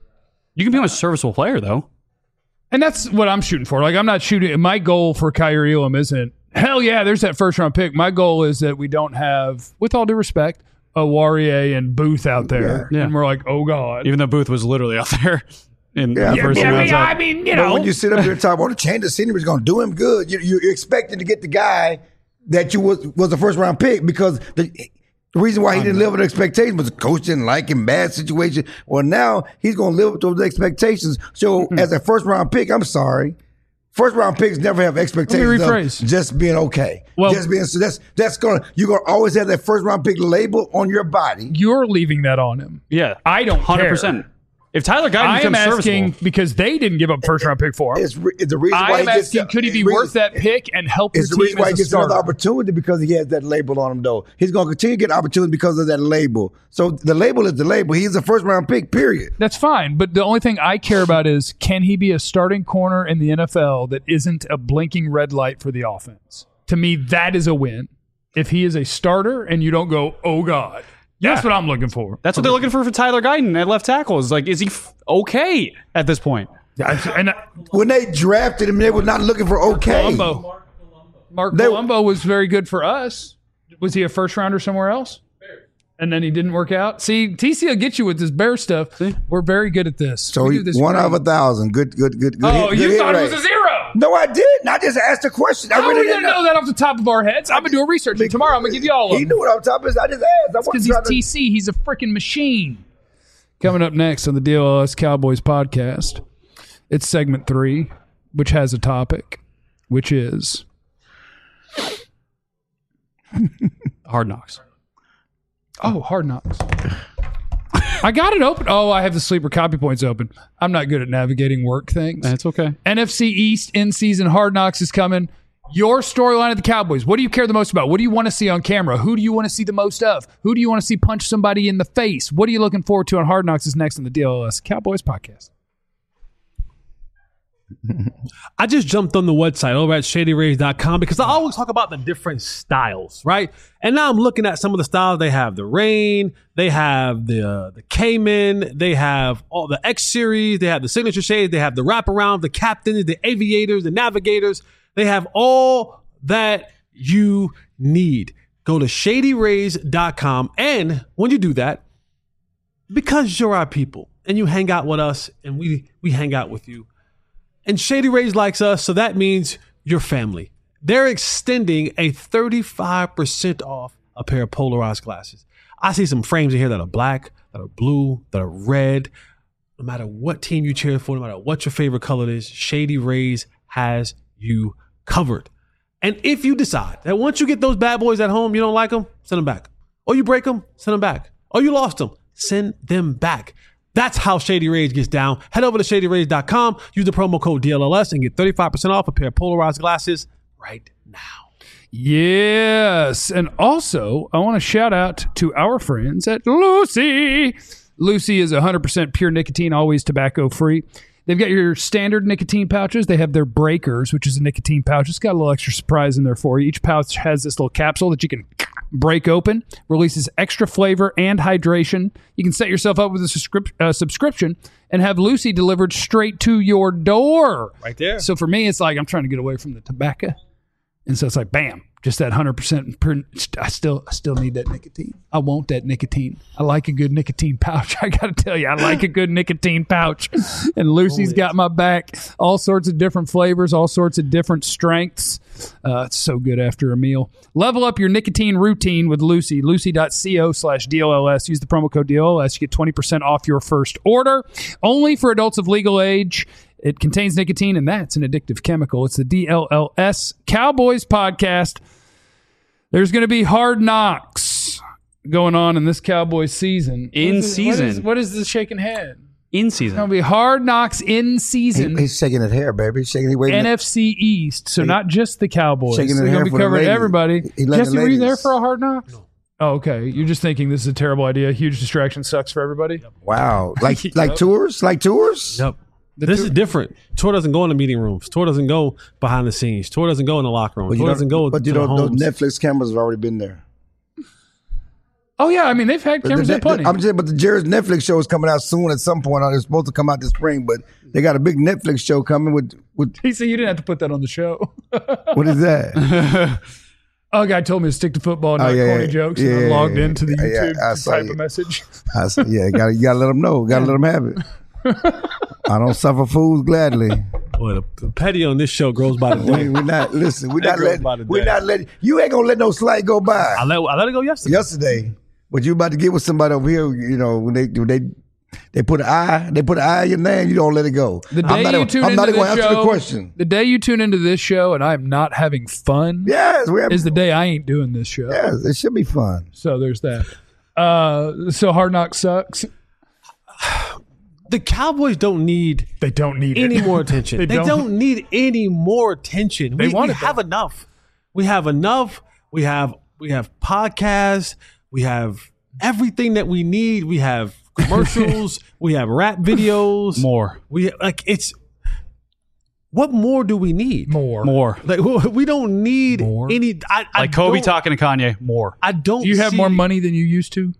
[SPEAKER 6] You can become a serviceable player, though.
[SPEAKER 1] And that's what I'm shooting for. Like, I'm not shooting. My goal for Kyrie Elam isn't, hell yeah, there's that first round pick. My goal is that we don't have, with all due respect, a Warrior and Booth out there.
[SPEAKER 6] Yeah.
[SPEAKER 1] And we're like, oh, God.
[SPEAKER 6] Even though Booth was literally out there in
[SPEAKER 2] Yeah,
[SPEAKER 6] the first
[SPEAKER 2] yeah,
[SPEAKER 6] round.
[SPEAKER 1] I mean, you
[SPEAKER 2] But
[SPEAKER 1] know.
[SPEAKER 2] when you sit up here and talk about the change of scenery is going to do him good, you're expecting to get the guy that you was a first round pick because the reason why he didn't live with expectations was the coach didn't like him, bad situation. Well, now he's going to live with those expectations. So as a first round pick, I'm sorry. First round picks never have expectations
[SPEAKER 1] rephrase.
[SPEAKER 2] of just being okay.
[SPEAKER 1] Well-
[SPEAKER 2] just being so you're gonna always have that first round pick label on your body.
[SPEAKER 1] You're leaving that on him.
[SPEAKER 6] Yeah.
[SPEAKER 1] I don't
[SPEAKER 6] 100%. If Tyler Guyton
[SPEAKER 1] I am
[SPEAKER 6] becomes
[SPEAKER 1] asking
[SPEAKER 6] serviceable,
[SPEAKER 1] because they didn't give up first round pick for him.
[SPEAKER 2] It's the reason why
[SPEAKER 1] I
[SPEAKER 2] he
[SPEAKER 1] am
[SPEAKER 2] gets
[SPEAKER 1] asking, could he be worth that pick and help your
[SPEAKER 2] It's the
[SPEAKER 1] team
[SPEAKER 2] reason why he
[SPEAKER 1] as a
[SPEAKER 2] gets another
[SPEAKER 1] starter?
[SPEAKER 2] opportunity because he has that label on him, though. He's going to continue to get opportunity because of that label. So the label is the label. He's a first round pick, period.
[SPEAKER 1] That's fine, but the only thing I care about is can he be a starting corner in the NFL that isn't a blinking red light for the offense? To me, that is a win. If he is a starter and you don't go, oh God, that's what I'm looking for.
[SPEAKER 6] that's what they're looking for Tyler Guyton at left tackle. Is like, is he okay at this point?
[SPEAKER 1] And
[SPEAKER 2] When they drafted him, they were not looking for okay.
[SPEAKER 1] Colombo, Mark
[SPEAKER 2] They-
[SPEAKER 1] Colombo was very good for us. Was he a first rounder somewhere else? And then he didn't work out. See, TC will get you with this bear stuff. We're very good at this.
[SPEAKER 2] So
[SPEAKER 1] we
[SPEAKER 2] he,
[SPEAKER 1] do this
[SPEAKER 2] one
[SPEAKER 1] great.
[SPEAKER 2] out of 1,000. Good.
[SPEAKER 1] Oh,
[SPEAKER 2] hit
[SPEAKER 1] you
[SPEAKER 2] hit
[SPEAKER 1] thought it
[SPEAKER 2] rate.
[SPEAKER 1] was a 0.
[SPEAKER 2] No, I didn't. I just asked a question. I
[SPEAKER 1] How are
[SPEAKER 2] really
[SPEAKER 1] we going
[SPEAKER 2] didn't
[SPEAKER 1] to know that off the top of our heads? I'm going to do a research. And tomorrow I'm going to give you all of
[SPEAKER 2] He
[SPEAKER 1] them.
[SPEAKER 2] knew what I was talking about. I just asked.
[SPEAKER 1] Because he's TC. He's a freaking machine. Coming up next on the DLS Cowboys podcast, it's segment 3, which has a topic, which is
[SPEAKER 6] Hard Knocks.
[SPEAKER 1] Hard Knocks. I got it open. Oh, I have the sleeper copy points open. I'm not good at navigating work things.
[SPEAKER 6] That's okay.
[SPEAKER 1] NFC East in-season Hard Knocks is coming. Your storyline of the Cowboys. What do you care the most about? What do you want to see on camera? Who do you want to see the most of? Who do you want to see punch somebody in the face? What are you looking forward to on Hard Knocks is next on the DLS Cowboys podcast.
[SPEAKER 4] I just jumped on the website over at shadyrays.com because I always talk about the different styles, right? And now I'm looking at some of the styles. They have the Rain, they have the Cayman, they have all the X series, they have the signature shades, they have the wraparound, the captains, the aviators, the navigators. They have all that you need. Go to shadyrays.com. And when you do that, because you're our people and you hang out with us and we hang out with you, and Shady Rays likes us, so that means your family. They're extending a 35% off a pair of polarized glasses. I see some frames in here that are black, that are blue, that are red. No matter what team you cheer for, no matter what your favorite color is, Shady Rays has you covered. And if you decide that once you get those bad boys at home, you don't like them, send them back. Or you break them, send them back. Or you lost them, send them back. That's how Shady Rays gets down. Head over to shadyrays.com, use the promo code DLLS, and get 35% off a pair of polarized glasses right now.
[SPEAKER 1] Yes. And also, I want to shout out to our friends at Lucy. Lucy is 100% pure nicotine, always tobacco free. They've got your standard nicotine pouches. They have their breakers, which is a nicotine pouch. It's got a little extra surprise in there for you. Each pouch has this little capsule that you can break open, releases extra flavor and hydration. You can set yourself up with a subscription and have Lucy delivered straight to your door.
[SPEAKER 4] Right there.
[SPEAKER 1] So for me, it's like I'm trying to get away from the tobacco. And so it's like, bam, just that 100%. I still need that nicotine. I want that nicotine. I like a good nicotine pouch. I got to tell you, I like a good nicotine pouch. And Lucy's got my back. All sorts of different flavors, all sorts of different strengths. It's so good after a meal. Level up your nicotine routine with Lucy. Lucy.co/DLLS. Use the promo code DLLS. You get 20% off your first order. Only for adults of legal age. It contains nicotine, and that's an addictive chemical. It's the DLLS Cowboys podcast. There's going to be hard knocks going on in this Cowboys season.
[SPEAKER 6] What
[SPEAKER 1] is the shaking head?
[SPEAKER 6] In
[SPEAKER 1] It's
[SPEAKER 6] season.
[SPEAKER 1] going to be hard knocks in season.
[SPEAKER 2] He's shaking his hair, baby. He's shaking. He waving.
[SPEAKER 1] NFC East, so not just the Cowboys.
[SPEAKER 2] Shaking
[SPEAKER 1] So
[SPEAKER 2] his
[SPEAKER 1] they're
[SPEAKER 2] hair
[SPEAKER 1] going to be
[SPEAKER 2] for the
[SPEAKER 1] covering
[SPEAKER 2] ladies.
[SPEAKER 1] everybody.
[SPEAKER 2] He letting
[SPEAKER 1] Jesse,
[SPEAKER 2] the
[SPEAKER 1] were you there
[SPEAKER 2] ladies.
[SPEAKER 1] for a hard knocks? No. Oh, okay. You're just thinking this is a terrible idea. Huge distraction sucks for everybody.
[SPEAKER 2] Wow, like tours, like tours.
[SPEAKER 4] Yep. This is different. Tour doesn't go in the meeting rooms. Tour doesn't go behind the scenes. Tour doesn't go in the locker room. Tour doesn't go
[SPEAKER 2] But
[SPEAKER 4] to
[SPEAKER 2] you
[SPEAKER 4] the
[SPEAKER 2] know, those
[SPEAKER 4] homes.
[SPEAKER 2] Netflix cameras have already been there.
[SPEAKER 1] Oh, yeah. I mean, they've had cameras there plenty.
[SPEAKER 2] I'm just, but the Jared's Netflix show is coming out soon at some point. It's supposed to come out this spring, but they got a big Netflix show coming with
[SPEAKER 1] He said you didn't have to put that on the show.
[SPEAKER 2] what is that?
[SPEAKER 1] Oh, a guy told me to stick to football and not corny jokes, and I logged into the YouTube
[SPEAKER 2] I
[SPEAKER 1] to
[SPEAKER 2] saw
[SPEAKER 1] type
[SPEAKER 2] you.
[SPEAKER 1] a message.
[SPEAKER 2] I said, yeah, you gotta let them know. Gotta let them have it. I don't suffer fools gladly.
[SPEAKER 4] Boy, the petty on this show grows by the day.
[SPEAKER 2] We're not listen. We're
[SPEAKER 4] That
[SPEAKER 2] not
[SPEAKER 4] grows
[SPEAKER 2] letting.
[SPEAKER 4] by the
[SPEAKER 2] We're
[SPEAKER 4] day.
[SPEAKER 2] not letting. You ain't gonna let no slight go by.
[SPEAKER 4] I let it go yesterday.
[SPEAKER 2] But you about to get with somebody over here. You know when they put an eye in your name, you don't let it go.
[SPEAKER 1] The day
[SPEAKER 2] I'm not
[SPEAKER 1] you
[SPEAKER 2] even-
[SPEAKER 1] tune
[SPEAKER 2] I'm
[SPEAKER 1] into
[SPEAKER 2] not even
[SPEAKER 1] this
[SPEAKER 2] gonna answer
[SPEAKER 1] show,
[SPEAKER 2] the question.
[SPEAKER 1] the day you tune into this show and I'm not having fun
[SPEAKER 2] Yes,
[SPEAKER 1] is the day I ain't doing this show.
[SPEAKER 2] Yes, it should be fun.
[SPEAKER 1] So there's that. So Hard Knock sucks.
[SPEAKER 4] The Cowboys don't need
[SPEAKER 1] They don't need
[SPEAKER 4] any
[SPEAKER 1] it.
[SPEAKER 4] more attention.
[SPEAKER 1] They
[SPEAKER 4] they
[SPEAKER 1] don't.
[SPEAKER 4] don't need any more attention.
[SPEAKER 1] They
[SPEAKER 4] We
[SPEAKER 1] want it,
[SPEAKER 4] have
[SPEAKER 1] though.
[SPEAKER 4] enough. We have enough. We have podcasts. We have everything that we need. We have commercials. We have rap videos.
[SPEAKER 6] More.
[SPEAKER 4] We like it's. What more do we need?
[SPEAKER 6] More.
[SPEAKER 4] Like we don't need
[SPEAKER 1] More?
[SPEAKER 4] any. I
[SPEAKER 6] Like Kobe
[SPEAKER 4] don't-
[SPEAKER 6] talking to Kanye. More.
[SPEAKER 4] I don't.
[SPEAKER 1] Do you have
[SPEAKER 4] see-
[SPEAKER 1] more money than you used to?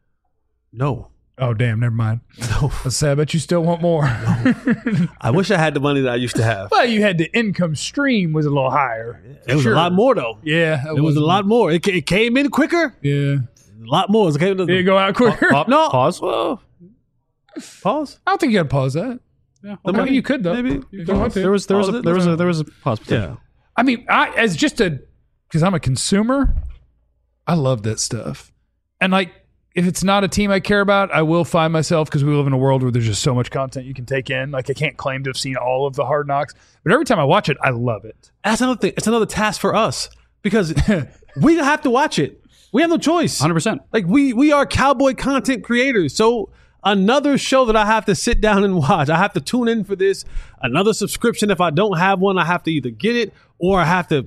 [SPEAKER 4] No.
[SPEAKER 1] Oh, damn. Never mind. No. Let's say I bet you still want more.
[SPEAKER 4] I wish I had the money that I used to have.
[SPEAKER 1] Well, you had the income stream was a little higher.
[SPEAKER 4] It was
[SPEAKER 1] Sure.
[SPEAKER 4] a lot more though.
[SPEAKER 1] Yeah.
[SPEAKER 4] It was a lot more. It came in quicker.
[SPEAKER 1] Yeah.
[SPEAKER 4] A lot more. It came
[SPEAKER 1] Did it go out quicker?
[SPEAKER 4] No.
[SPEAKER 6] Pause.
[SPEAKER 4] Well, pause.
[SPEAKER 1] I don't think you got to pause that.
[SPEAKER 6] Yeah.
[SPEAKER 1] I mean, you could, though.
[SPEAKER 4] Maybe.
[SPEAKER 1] If you want to.
[SPEAKER 6] There was a pause.
[SPEAKER 4] Yeah.
[SPEAKER 1] I mean, because I'm a consumer, I love that stuff. And like, if it's not a team I care about, I will find myself, because we live in a world where there's just so much content you can take in. Like, I can't claim to have seen all of the Hard Knocks, but every time I watch it, I love it.
[SPEAKER 4] That's another thing. It's another task for us because we have to watch it. We have no choice.
[SPEAKER 6] 100%.
[SPEAKER 4] Like we are Cowboy content creators. So another show that I have to sit down and watch. I have to tune in for this. Another subscription. If I don't have one, I have to either get it or I have to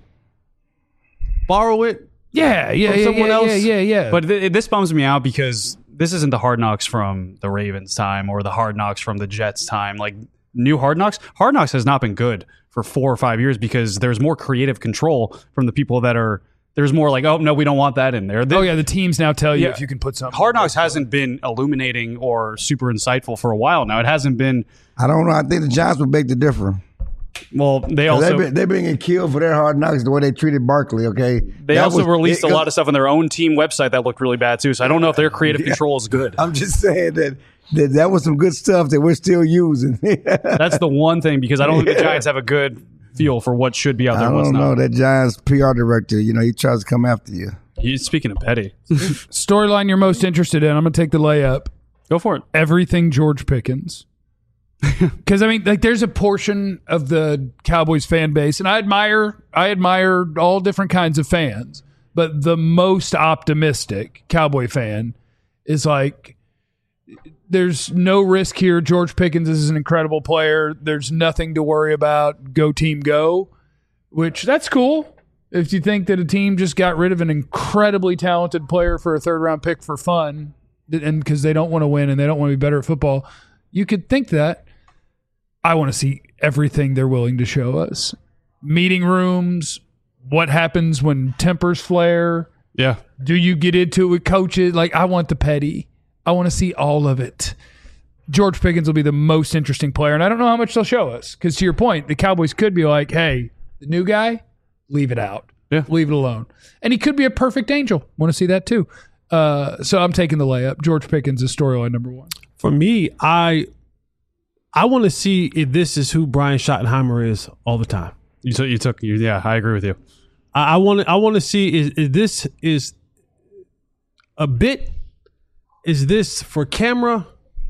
[SPEAKER 4] borrow it.
[SPEAKER 1] Yeah.
[SPEAKER 4] From someone else?
[SPEAKER 1] Yeah.
[SPEAKER 6] But this bums me out because this isn't the Hard Knocks from the Ravens time or the Hard Knocks from the Jets time. Like new Hard Knocks has not been good for 4 or 5 years because there's more creative control from the people that are. There's more like, oh no, we don't want that in there.
[SPEAKER 1] The teams now tell you
[SPEAKER 6] Yeah.
[SPEAKER 1] if you can put something.
[SPEAKER 6] Hard Knocks hasn't been illuminating or super insightful for a while now. It hasn't been.
[SPEAKER 2] I don't know. I think the Giants would beg to differ.
[SPEAKER 6] Well, they also
[SPEAKER 2] They've been getting killed for their Hard Knocks the way they treated Barkley. Okay,
[SPEAKER 6] they also released a lot of stuff on their own team website that looked really bad too. So I don't know if their creative control is good.
[SPEAKER 2] I'm just saying that was some good stuff that we're still using.
[SPEAKER 6] That's the one thing because I don't think the Giants have a good feel for what should be out there
[SPEAKER 2] I
[SPEAKER 6] and what's
[SPEAKER 2] don't know.
[SPEAKER 6] not.
[SPEAKER 2] That Giants PR director, he tries to come after you.
[SPEAKER 6] Speaking of petty,
[SPEAKER 1] Storyline you're most interested in. I'm going to take the layup.
[SPEAKER 6] go for it.
[SPEAKER 1] Everything George Pickens. Because I mean, like, there's a portion of the Cowboys fan base, and I admire all different kinds of fans, but the most optimistic Cowboy fan is like, there's no risk here. George Pickens is an incredible player. There's nothing to worry about. Go team, go. Which that's cool. If you think that a team just got rid of an incredibly talented player for a third-round pick for fun, and because they don't want to win and they don't want to be better at football, you could think that. I want to see everything they're willing to show us. Meeting rooms, what happens when tempers flare.
[SPEAKER 6] Yeah.
[SPEAKER 1] Do you get into it with coaches? Like, I want the petty. I want to see all of it. George Pickens will be the most interesting player, and I don't know how much they'll show us. Because to your point, the Cowboys could be like, hey, the new guy, leave it out.
[SPEAKER 6] Yeah.
[SPEAKER 1] Leave it alone. And he could be a perfect angel. Want to see that too. So I'm taking the layup. George Pickens is storyline number one.
[SPEAKER 4] For me, I want to see if this is who Brian Schottenheimer is all the time.
[SPEAKER 6] Yeah, I agree with you.
[SPEAKER 4] I want to see is this is a bit. Is this for camera?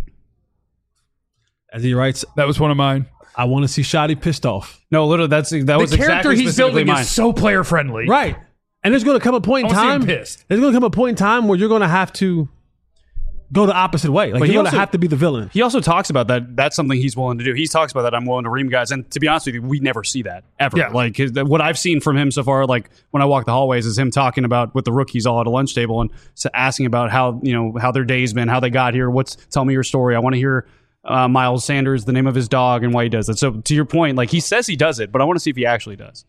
[SPEAKER 4] As he writes,
[SPEAKER 1] That was one of mine.
[SPEAKER 4] I want to see Shotty pissed off.
[SPEAKER 6] No, literally, that was
[SPEAKER 1] The
[SPEAKER 6] exactly
[SPEAKER 1] character he's
[SPEAKER 6] specifically
[SPEAKER 1] building
[SPEAKER 6] mine.
[SPEAKER 1] is so player friendly.
[SPEAKER 4] Right. And there's going to come a point in
[SPEAKER 1] I wanna see him
[SPEAKER 4] time.
[SPEAKER 1] pissed.
[SPEAKER 4] There's going to come a point in time where you're going to have to go the opposite way. Like
[SPEAKER 6] But
[SPEAKER 4] you're
[SPEAKER 6] he
[SPEAKER 4] going to
[SPEAKER 6] also-
[SPEAKER 4] have to be the villain.
[SPEAKER 6] He also talks about that. That's something he's willing to do. He talks about that. I'm willing to ream guys. And to be honest with you, we never see that ever.
[SPEAKER 1] Yeah.
[SPEAKER 6] Like what I've seen from him so far, like when I walk the hallways, is him talking about with the rookies all at a lunch table and asking about how their day's been, how they got here. Tell me your story. I want to hear Miles Sanders, the name of his dog, and why he does it. So to your point, like he says he does it, but I want to see if he actually does.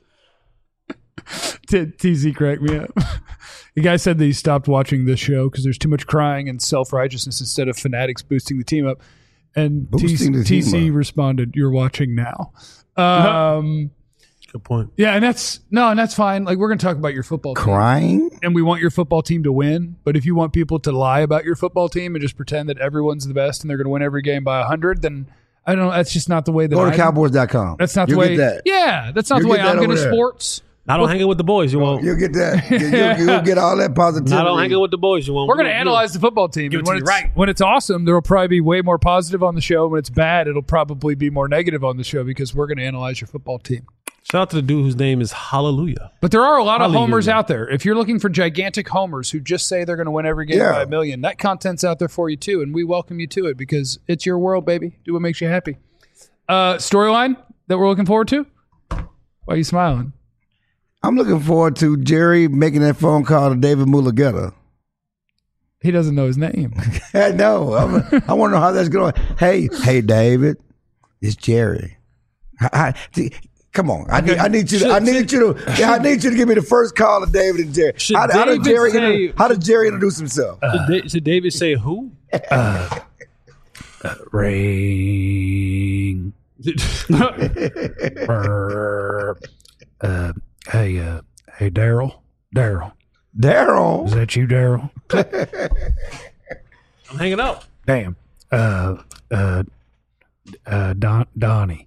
[SPEAKER 1] TZ cracked me up. The guy said that he stopped watching this show because there's too much crying and self-righteousness instead of fanatics boosting the team up. And
[SPEAKER 2] Boosting the team
[SPEAKER 1] TC
[SPEAKER 2] up.
[SPEAKER 1] responded, "You're watching now."
[SPEAKER 4] Good point.
[SPEAKER 1] Yeah, and that's fine. Like, we're going to talk about your football team,
[SPEAKER 2] Crying?
[SPEAKER 1] and we want your football team to win. But if you want people to lie about your football team and just pretend that everyone's the best and they're going to win every game by 100, then I don't know. That's just not the way that
[SPEAKER 2] Go to Cowboys.com.
[SPEAKER 1] That's not the
[SPEAKER 2] You'll
[SPEAKER 1] way.
[SPEAKER 2] get that.
[SPEAKER 1] Yeah, that's not the
[SPEAKER 2] You'll
[SPEAKER 1] way
[SPEAKER 2] get that
[SPEAKER 1] I'm going to
[SPEAKER 2] over there.
[SPEAKER 1] sports.
[SPEAKER 4] Not on hanging with the boys, you won't.
[SPEAKER 2] You'll get that. You'll get all that positivity.
[SPEAKER 4] Not on hanging with the boys, you won't.
[SPEAKER 1] We're going to analyze the football team.
[SPEAKER 4] Give
[SPEAKER 1] And
[SPEAKER 4] it
[SPEAKER 1] when
[SPEAKER 4] to
[SPEAKER 1] it's
[SPEAKER 4] you right.
[SPEAKER 1] when it's awesome, there will probably be way more positive on the show. When it's bad, it'll probably be more negative on the show because we're going to analyze your football team.
[SPEAKER 4] Shout out to the dude whose name is Hallelujah.
[SPEAKER 1] But there are a lot of
[SPEAKER 4] Hallelujah.
[SPEAKER 1] homers out there. If you're looking for gigantic homers who just say they're going to win every game
[SPEAKER 2] Yeah.
[SPEAKER 1] by a million, that content's out there for you too, and we welcome you to it because it's your world, baby. Do what makes you happy. Storyline that we're looking forward to? Why are you smiling?
[SPEAKER 2] I'm looking forward to Jerry making that phone call to David Mulugeta.
[SPEAKER 1] He doesn't know his name.
[SPEAKER 2] I know. I want to know how that's going. Hey, David, it's Jerry. Come on, I need you to give me the first call to David and Jerry.
[SPEAKER 4] Should
[SPEAKER 2] How does
[SPEAKER 4] David
[SPEAKER 2] Jerry introduce himself?
[SPEAKER 4] Should David say who?
[SPEAKER 1] Ring. Hey, Daryl.
[SPEAKER 2] Daryl.
[SPEAKER 1] Is that you, Daryl?
[SPEAKER 4] I'm hanging up.
[SPEAKER 1] Damn. Donnie.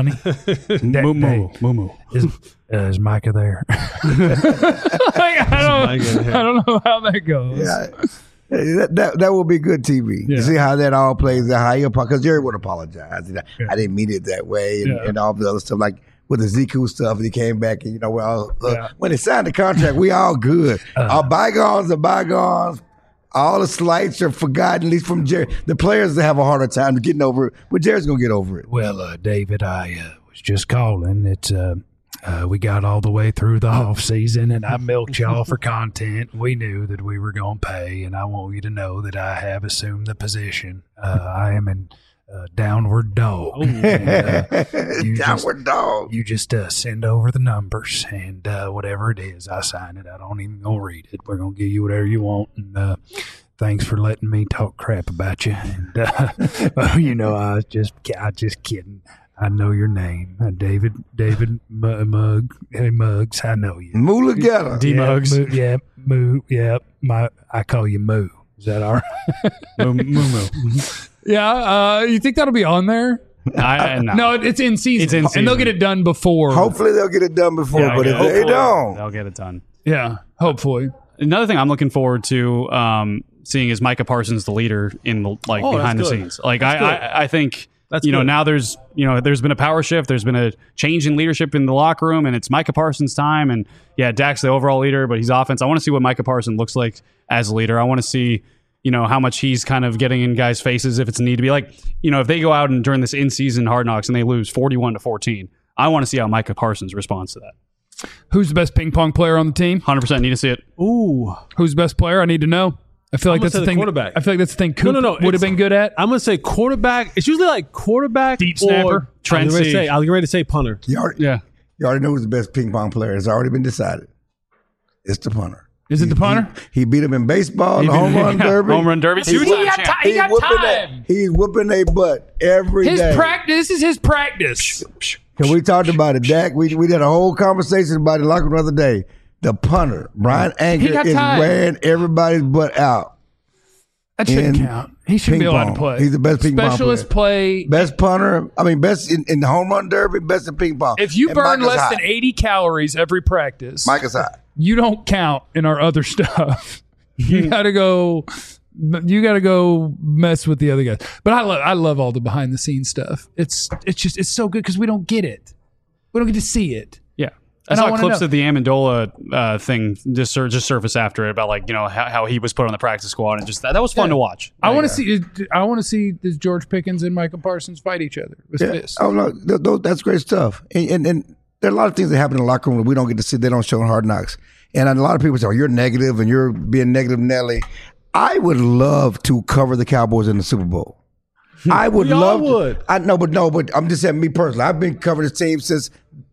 [SPEAKER 6] Moo.
[SPEAKER 1] Is Micah there? I don't know how that goes.
[SPEAKER 2] Yeah. That will be good TV.
[SPEAKER 1] Yeah.
[SPEAKER 2] You see how that all plays out. Because Jerry would apologize. I didn't mean it that way, and all the other stuff like with the Ziku stuff. He came back, and when he signed the contract, we all good. Our bygones are bygones. All the slights are forgotten, at least from Jerry. The players have a harder time getting over it, but Jerry's gonna get over it.
[SPEAKER 1] Well, David, I was just calling. It's we got all the way through the off season, and I milked y'all for content. We knew that we were going to pay, and I want you to know that I have assumed the position. I am in downward dog.
[SPEAKER 2] Downward dog.
[SPEAKER 1] You just send over the numbers, and whatever it is, I sign it. I don't even gonna read it. We're gonna give you whatever you want, and thanks for letting me talk crap about you. And I was just kidding. I know your name, David Mugg. Hey, Muggs, I know you.
[SPEAKER 2] Mulugeta.
[SPEAKER 6] D Muggs.
[SPEAKER 1] Moo. Yeah, I call you Moo. Is that all right?
[SPEAKER 6] Moo.
[SPEAKER 1] Yeah. You think that'll be on there?
[SPEAKER 6] No.
[SPEAKER 1] No, it's in season.
[SPEAKER 6] It's in
[SPEAKER 1] And they'll
[SPEAKER 6] season.
[SPEAKER 1] get it done before.
[SPEAKER 2] Hopefully they'll get it done before,
[SPEAKER 6] Yeah,
[SPEAKER 2] but if they don't,
[SPEAKER 6] they'll get it done.
[SPEAKER 1] Yeah, hopefully.
[SPEAKER 6] Another thing I'm looking forward to seeing is Micah Parsons the leader in the behind the
[SPEAKER 4] that's good.
[SPEAKER 6] scenes. Like I think
[SPEAKER 4] That's
[SPEAKER 6] good.
[SPEAKER 4] good.
[SPEAKER 6] Now there's been a power shift. There's been a change in leadership in the locker room, and it's Micah Parsons' time. And yeah, Dak's the overall leader, but he's offense. I want to see what Micah Parsons looks like as a leader. I want to see how much he's kind of getting in guys' faces if it's need to be. Like if they go out and during this in-season Hard Knocks and they lose 41-14, I want to see how Micah Parsons responds to that.
[SPEAKER 1] Who's the best ping pong player on the team?
[SPEAKER 6] 100% need to see it.
[SPEAKER 4] Ooh.
[SPEAKER 1] Who's the best player? I need to know. I feel like
[SPEAKER 4] I'm gonna
[SPEAKER 1] that's the
[SPEAKER 4] say the
[SPEAKER 1] thing.
[SPEAKER 4] quarterback.
[SPEAKER 1] I feel like that's the thing Coop
[SPEAKER 4] No.
[SPEAKER 1] would have been good at.
[SPEAKER 4] I'm going to say quarterback. It's usually like quarterback.
[SPEAKER 1] Deep snapper.
[SPEAKER 4] Or, I was ready to say punter.
[SPEAKER 2] You already know who's the best ping pong player. It's already been decided. It's the punter.
[SPEAKER 1] Is it the punter?
[SPEAKER 2] He beat him in baseball, the home run derby.
[SPEAKER 6] Home run derby.
[SPEAKER 1] He got time.
[SPEAKER 2] He's whooping their butt every day.
[SPEAKER 1] His practice. This is his practice.
[SPEAKER 2] And we talked about it, Dak. We did a whole conversation about it in the locker room the other day. The punter, Brian Anger,
[SPEAKER 1] got
[SPEAKER 2] is
[SPEAKER 1] time.
[SPEAKER 2] wearing everybody's butt out.
[SPEAKER 1] That shouldn't
[SPEAKER 2] in
[SPEAKER 1] count. He shouldn't be
[SPEAKER 2] ping
[SPEAKER 1] allowed
[SPEAKER 2] pong.
[SPEAKER 1] to play.
[SPEAKER 2] He's the best ping pong
[SPEAKER 1] Specialist
[SPEAKER 2] player.
[SPEAKER 1] play.
[SPEAKER 2] Best punter. I mean, best in the home run derby, best in ping pong.
[SPEAKER 1] If you
[SPEAKER 2] And
[SPEAKER 1] burn
[SPEAKER 2] Mike is
[SPEAKER 1] less
[SPEAKER 2] hot.
[SPEAKER 1] than 80 calories every practice,
[SPEAKER 2] Mike is hot.
[SPEAKER 1] you don't count in our other stuff. You gotta go. You gotta go mess with the other guys. But I love all the behind the scenes stuff. It's so good because we don't get it. We don't get to see it.
[SPEAKER 6] Yeah.
[SPEAKER 1] And
[SPEAKER 6] I
[SPEAKER 1] I
[SPEAKER 6] saw
[SPEAKER 1] wanna
[SPEAKER 6] clips
[SPEAKER 1] know.
[SPEAKER 6] of the Amendola thing just surface after it about how he was put on the practice squad and just that was fun to watch.
[SPEAKER 1] I want to see. I want to see does George Pickens and Michael Parsons fight each other with fists.
[SPEAKER 2] Oh no, that's great stuff. And there are a lot of things that happen in the locker room that we don't get to see. They don't show in Hard Knocks. And a lot of people say, "Oh, you're negative and you're being negative, Nelly." I would love to cover the Cowboys in the Super Bowl. I would
[SPEAKER 4] We all
[SPEAKER 2] love.
[SPEAKER 4] would.
[SPEAKER 2] I know, but I'm just saying me personally. I've been covering this team since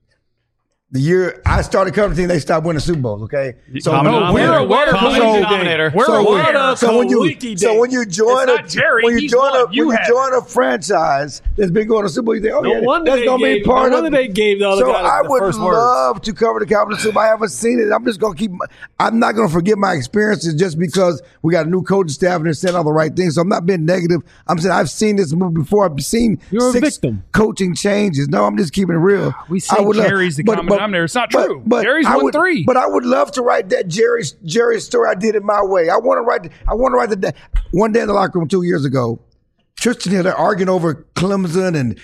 [SPEAKER 2] the year I started covering the team. They stopped winning Super Bowls. Okay,
[SPEAKER 6] Common denominator.
[SPEAKER 1] we're aware.
[SPEAKER 6] Common
[SPEAKER 1] So-
[SPEAKER 6] denominator.
[SPEAKER 1] We're aware.
[SPEAKER 2] So when you join
[SPEAKER 1] It's not Jerry,
[SPEAKER 2] when you
[SPEAKER 1] he's
[SPEAKER 2] join
[SPEAKER 1] won. You have
[SPEAKER 2] join a franchise that's been going to Super Bowl, you think, oh
[SPEAKER 4] No
[SPEAKER 2] yeah,
[SPEAKER 4] wonder
[SPEAKER 2] that's
[SPEAKER 4] they
[SPEAKER 2] gonna be
[SPEAKER 4] gave-
[SPEAKER 2] part
[SPEAKER 4] no
[SPEAKER 2] of.
[SPEAKER 4] wonder they gave the other
[SPEAKER 2] so
[SPEAKER 4] guy
[SPEAKER 2] I
[SPEAKER 4] the
[SPEAKER 2] would
[SPEAKER 4] first words.
[SPEAKER 2] love to cover the Cowboys Super Bowl. I haven't seen it. I'm just gonna keep. I'm not gonna forget my experiences just because we got a new coaching staff and they're saying all the right things. So I'm not being negative. I'm saying I've seen this movie before. I've seen
[SPEAKER 4] You're a
[SPEAKER 2] 6
[SPEAKER 4] victim.
[SPEAKER 2] coaching changes. No, I'm just keeping it real.
[SPEAKER 1] We say
[SPEAKER 2] I would love-
[SPEAKER 1] Jerry's the common denominator. It's not true. Jerry's
[SPEAKER 2] I
[SPEAKER 1] won
[SPEAKER 2] would-
[SPEAKER 1] 3.
[SPEAKER 2] But I would love to write that Jerry story. I did it my way. I want to write the one day in the locker room 2 years ago. Tristan Hill, they're arguing over Clemson and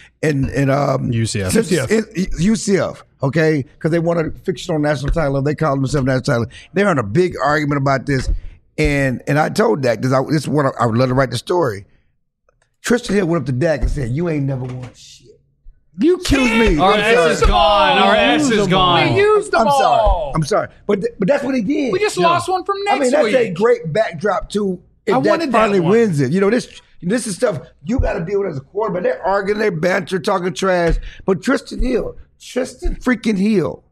[SPEAKER 6] UCF.
[SPEAKER 2] UCF, okay, because they won a fictional national title. They called themselves national title. They're in a big argument about this, and I told Dak because this is what I would love to write the story. Tristan Hill went up to Dak and said, "You ain't never won shit."
[SPEAKER 1] You
[SPEAKER 2] Excuse
[SPEAKER 1] can't.
[SPEAKER 2] me.
[SPEAKER 6] Our
[SPEAKER 2] I'm
[SPEAKER 6] S
[SPEAKER 2] sorry.
[SPEAKER 6] is gone. Our S is gone.
[SPEAKER 1] We used them
[SPEAKER 2] I'm
[SPEAKER 1] all.
[SPEAKER 2] sorry. But that's what he did.
[SPEAKER 1] We just lost one from next
[SPEAKER 2] I mean, that's
[SPEAKER 1] week.
[SPEAKER 2] a great backdrop to
[SPEAKER 1] I
[SPEAKER 2] if
[SPEAKER 1] wanted
[SPEAKER 2] Dak
[SPEAKER 1] that
[SPEAKER 2] finally
[SPEAKER 1] one.
[SPEAKER 2] wins it. You know, this is stuff you got to deal with as a quarterback. They're arguing, they're banter, talking trash. But Tristan freaking Hill.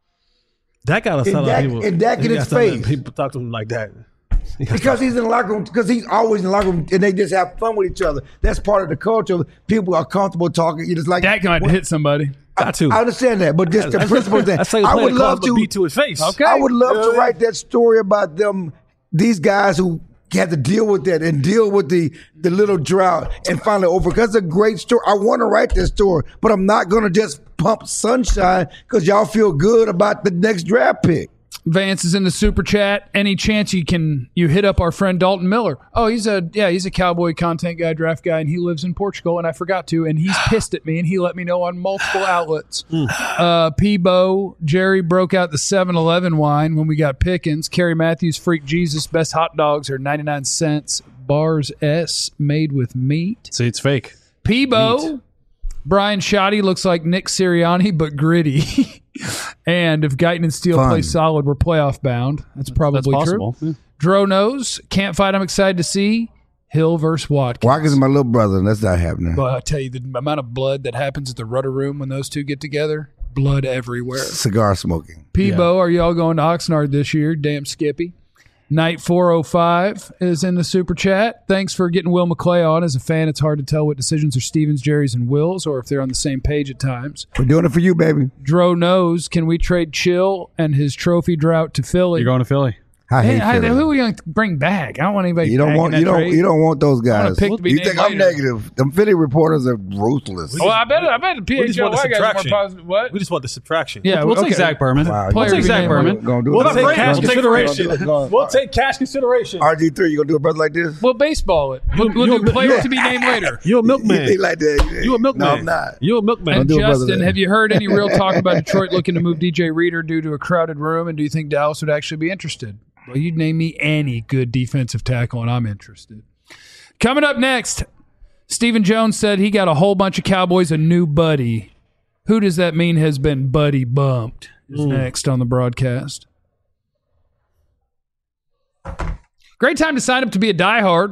[SPEAKER 4] That got us
[SPEAKER 2] And Dak in his face.
[SPEAKER 4] People talk to him like that.
[SPEAKER 2] Because he's in the locker room, because he's always in the locker room, and they just have fun with each other. That's part of the culture. People are comfortable talking. You just like
[SPEAKER 1] Dak might hit somebody.
[SPEAKER 4] Got to.
[SPEAKER 2] I understand that, but just the principle thing.
[SPEAKER 4] That's like
[SPEAKER 2] I
[SPEAKER 4] playing
[SPEAKER 2] would
[SPEAKER 4] a club
[SPEAKER 2] love
[SPEAKER 4] but
[SPEAKER 2] to
[SPEAKER 4] beat to his face.
[SPEAKER 1] Okay.
[SPEAKER 2] I would love to write that story about them, these guys who had to deal with that and deal with the little drought and finally over. Because it's a great story. I want to write that story, but I'm not going to just pump sunshine because y'all feel good about the next draft pick.
[SPEAKER 1] Vance is in the super chat. Any chance you hit up our friend Dalton Miller? Oh, he's a Cowboy content guy, draft guy, and he lives in Portugal, and I forgot to, and he's pissed at me, and he let me know on multiple outlets. Peebo, Jerry broke out the 7-Eleven wine when we got Pickens. Kerry Matthews, Freak Jesus, best hot dogs are 99 cents. Bars S, made with meat.
[SPEAKER 6] See, it's fake.
[SPEAKER 1] Peebo, Brian Shoddy looks like Nick Sirianni, but gritty. And if Guyton and Steele
[SPEAKER 2] Fun.
[SPEAKER 1] play solid, we're playoff bound. That's probably
[SPEAKER 6] That's possible.
[SPEAKER 1] true.
[SPEAKER 6] Yeah.
[SPEAKER 1] Dro knows. Can't fight. I'm excited to see Hill versus Watkins.
[SPEAKER 2] Watkins is my little brother, and that's not happening.
[SPEAKER 1] Well, I tell you, the amount of blood that happens at the Rudder Room when those two get together, blood everywhere.
[SPEAKER 2] Cigar smoking.
[SPEAKER 1] Peebo, are y'all going to Oxnard this year? Damn Skippy. Night 405 is in the super chat. Thanks for getting Will McClay on. As a fan, it's hard to tell what decisions are Stevens, Jerry's, and Will's, or if they're on the same page at times.
[SPEAKER 2] We're doing it for you, baby.
[SPEAKER 1] Dro knows. Can we trade Chill and his trophy drought to Philly?
[SPEAKER 6] You're going to Philly.
[SPEAKER 2] I hate
[SPEAKER 1] Man,
[SPEAKER 2] Philly.
[SPEAKER 1] who are we going to bring back? I don't want anybody.
[SPEAKER 2] You don't
[SPEAKER 1] back
[SPEAKER 2] want
[SPEAKER 1] in
[SPEAKER 2] you
[SPEAKER 1] that
[SPEAKER 2] don't
[SPEAKER 1] trade.
[SPEAKER 2] you don't want those guys.
[SPEAKER 1] pick to be
[SPEAKER 2] You
[SPEAKER 1] named
[SPEAKER 2] think I'm
[SPEAKER 1] later.
[SPEAKER 2] negative? Them Philly reporters are ruthless.
[SPEAKER 1] Well, I bet the
[SPEAKER 4] We just want the
[SPEAKER 1] PHLY guys are more
[SPEAKER 4] subtraction.
[SPEAKER 1] positive. What?
[SPEAKER 4] We just want the subtraction.
[SPEAKER 1] Yeah,
[SPEAKER 6] We'll
[SPEAKER 1] okay.
[SPEAKER 6] take Zach Berman.
[SPEAKER 2] Wow,
[SPEAKER 1] Player
[SPEAKER 6] We'll take
[SPEAKER 1] we
[SPEAKER 6] Zach
[SPEAKER 1] named
[SPEAKER 6] Berman.
[SPEAKER 2] Gonna do
[SPEAKER 4] We'll
[SPEAKER 2] it.
[SPEAKER 4] take cash
[SPEAKER 6] We'll take
[SPEAKER 4] consideration.
[SPEAKER 2] Go on.
[SPEAKER 4] We'll take cash consideration.
[SPEAKER 2] RG3, you gonna do a brother like this?
[SPEAKER 1] We'll baseball it. We'll
[SPEAKER 4] you-
[SPEAKER 1] do players
[SPEAKER 4] you-
[SPEAKER 1] to be named later.
[SPEAKER 4] You a milkman.
[SPEAKER 2] He like that.
[SPEAKER 4] You a milkman.
[SPEAKER 2] No, I'm not.
[SPEAKER 4] You a milkman.
[SPEAKER 1] And
[SPEAKER 2] do it, brother,
[SPEAKER 1] Justin,
[SPEAKER 2] then.
[SPEAKER 1] have you heard any real talk about Detroit looking to move DJ Reader due to a crowded room? And do you think Dallas would actually be interested? Well, you'd name me any good defensive tackle, and I'm interested. Coming up next, Stephen Jones said he got a whole bunch of Cowboys a new buddy. Who does that mean has been buddy bumped? is next on the broadcast. Great time to sign up to be a diehard.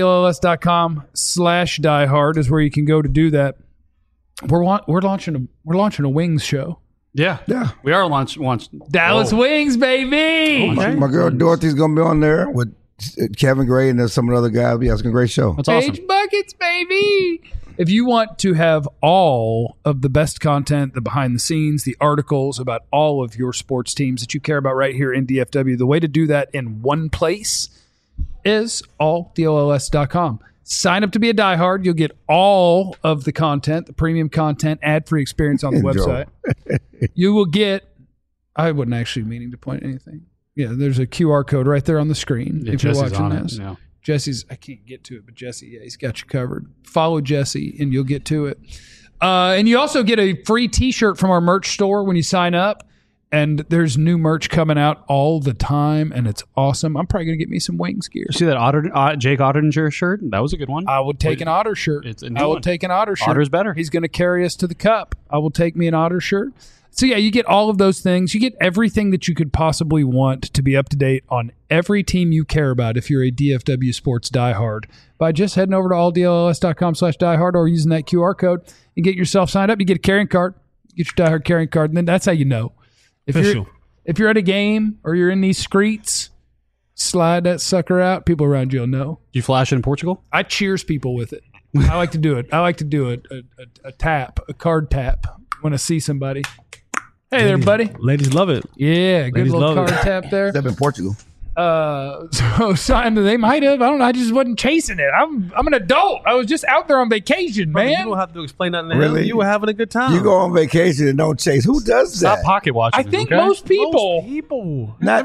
[SPEAKER 1] alldlls.com/diehard is where you can go to do that. We're launching a wings show.
[SPEAKER 6] Yeah. We are launch
[SPEAKER 1] Dallas Wings, baby.
[SPEAKER 2] My girl Dorothy's going to be on there with Kevin Gray and some of the other guys. Yeah, it's a great show.
[SPEAKER 6] That's awesome.
[SPEAKER 1] Page buckets, baby. If you want to have all of the best content, the behind the scenes, the articles about all of your sports teams that you care about right here in DFW, the way to do that in one place is alldlls.com. Sign up to be a diehard. You'll get all of the content, the premium content, ad-free experience on the website. You will get, I wasn't actually meaning to point anything. Yeah, there's a QR code right there on the screen if you're watching this. Yeah. Jesse's, I can't get to it, but Jesse, yeah, he's got you covered. Follow Jesse and you'll get to it. And you also get a free t-shirt from our merch store when you sign up. And there's new merch coming out all the time, and it's awesome. I'm probably going to get me some Wings gear.
[SPEAKER 6] You see that Jake Ottinger shirt? That was a good one.
[SPEAKER 1] I would take an Otter shirt. I will take an Otter shirt.
[SPEAKER 6] Otter's better.
[SPEAKER 1] He's going to carry us to the cup. I will take me an Otter shirt. So, yeah, you get all of those things. You get everything that you could possibly want to be up to date on every team you care about if you're a DFW sports diehard by just heading over to alldlls.com/diehard or using that QR code and get yourself signed up. You get a carrying card. You get your diehard carrying card, and then that's how you know. If you're at a game or you're in these streets, slide that sucker out. People around you will know.
[SPEAKER 6] Do you flash it in Portugal?
[SPEAKER 1] I cheers people with it. I like to do it. I like to do it. A tap, a card tap when I see somebody. Hey there, buddy.
[SPEAKER 4] Ladies love it.
[SPEAKER 1] Yeah, good
[SPEAKER 4] Ladies
[SPEAKER 1] little
[SPEAKER 4] love
[SPEAKER 1] card tap there.
[SPEAKER 2] Except in Portugal.
[SPEAKER 1] So they might have. I don't know. I just wasn't chasing it. I'm an adult. I was just out there on vacation,
[SPEAKER 4] Brother,
[SPEAKER 1] man.
[SPEAKER 4] you don't have to explain nothing.
[SPEAKER 2] Really?
[SPEAKER 4] You were having a good time.
[SPEAKER 2] You go on vacation and don't chase. Who does that?
[SPEAKER 6] Stop pocket watching.
[SPEAKER 1] I think most people.
[SPEAKER 2] Not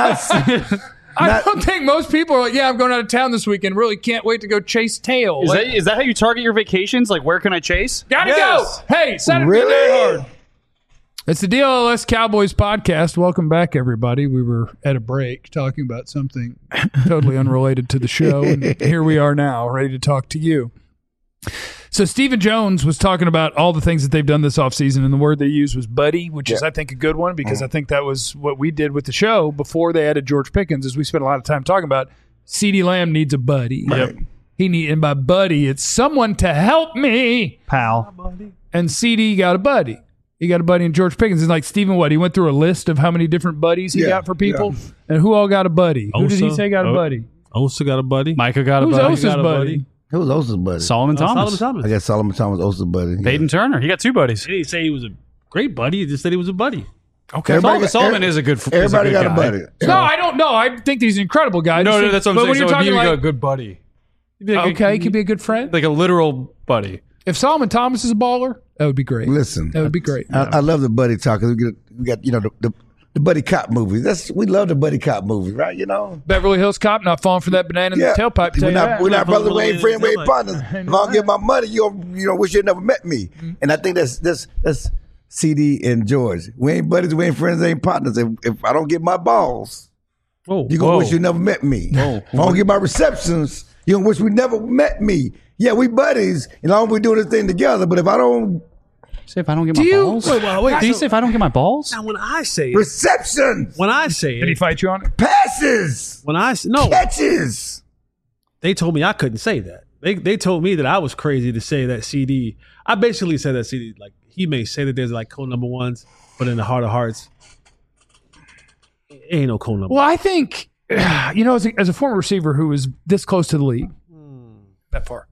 [SPEAKER 1] I don't think most people are like, yeah, I'm going out of town this weekend. Really can't wait to go chase tail.
[SPEAKER 6] Is that how you target your vacations? Like, where can I chase?
[SPEAKER 1] Gotta go. Hey, sign up
[SPEAKER 2] Really?
[SPEAKER 1] to be diehard. It's the DLS Cowboys podcast. Welcome back, everybody. We were at a break talking about something totally unrelated to the show, and here we are now, ready to talk to you. So Stephen Jones was talking about all the things that they've done this offseason, and the word they used was buddy, which is, I think, a good one because I think that was what we did with the show before they added George Pickens, is we spent a lot of time talking about CeeDee Lamb needs a buddy.
[SPEAKER 6] Yep.
[SPEAKER 1] And by buddy, it's someone to help me.
[SPEAKER 6] Pal.
[SPEAKER 1] And CD got a buddy. He got a buddy in George Pickens. It's like Stephen, he went through a list of how many different buddies he got for people, and who all got a buddy? Who did he say got a buddy?
[SPEAKER 4] Osa got a buddy.
[SPEAKER 6] Micah got a
[SPEAKER 1] Who's
[SPEAKER 6] buddy.
[SPEAKER 1] Osa's buddy?
[SPEAKER 2] Who was Osa's buddy?
[SPEAKER 6] Solomon Thomas.
[SPEAKER 2] I guess Solomon Thomas was Osa's buddy. Yeah.
[SPEAKER 6] Peyton Turner. He got two buddies.
[SPEAKER 4] He didn't say he was a great buddy. He just said he was a buddy.
[SPEAKER 1] Okay.
[SPEAKER 6] Solomon is a good
[SPEAKER 2] Everybody got
[SPEAKER 6] guy.
[SPEAKER 2] a buddy.
[SPEAKER 1] No, I don't know. I think he's an incredible guy.
[SPEAKER 6] No, that's what I'm
[SPEAKER 1] but
[SPEAKER 6] saying.
[SPEAKER 1] when you're
[SPEAKER 6] So
[SPEAKER 1] talking
[SPEAKER 6] he would
[SPEAKER 1] like,
[SPEAKER 6] go a good buddy.
[SPEAKER 1] okay, he could be a good friend.
[SPEAKER 6] Like a literal buddy.
[SPEAKER 1] If Solomon Thomas is a baller, that would be great.
[SPEAKER 2] Listen,
[SPEAKER 1] That would be great.
[SPEAKER 2] I love the buddy talk. 'Cause we got the buddy cop movies. We love the buddy cop movies, right? You know.
[SPEAKER 1] Beverly Hills Cop not falling for that banana in the tailpipe.
[SPEAKER 2] We're not brothers. We ain't friends. We ain't
[SPEAKER 4] Tailpipe.
[SPEAKER 2] partners. If I don't get my money, you wish you never met me. And I think that's CD and George. We ain't buddies. We ain't friends. We ain't partners. If I don't get my balls, you gonna wish you never met me. If I don't get my receptions, you gonna wish we never met me. Yeah, we buddies, and long as we doing this thing together. But if I don't
[SPEAKER 6] Say if I don't get my balls?
[SPEAKER 4] Wait.
[SPEAKER 6] Did you say if I don't get my balls?
[SPEAKER 4] Now, when I say it,
[SPEAKER 2] receptions,
[SPEAKER 1] Did he fight you on it?
[SPEAKER 2] passes,
[SPEAKER 4] no,
[SPEAKER 2] catches.
[SPEAKER 4] they told me I couldn't say that. They told me that I was crazy to say that CD. I basically said that CD, like, he may say that there's like cold number ones, but in the heart of hearts, it ain't no cold number.
[SPEAKER 1] Well, I think, as a former receiver who was this close to the league, that far,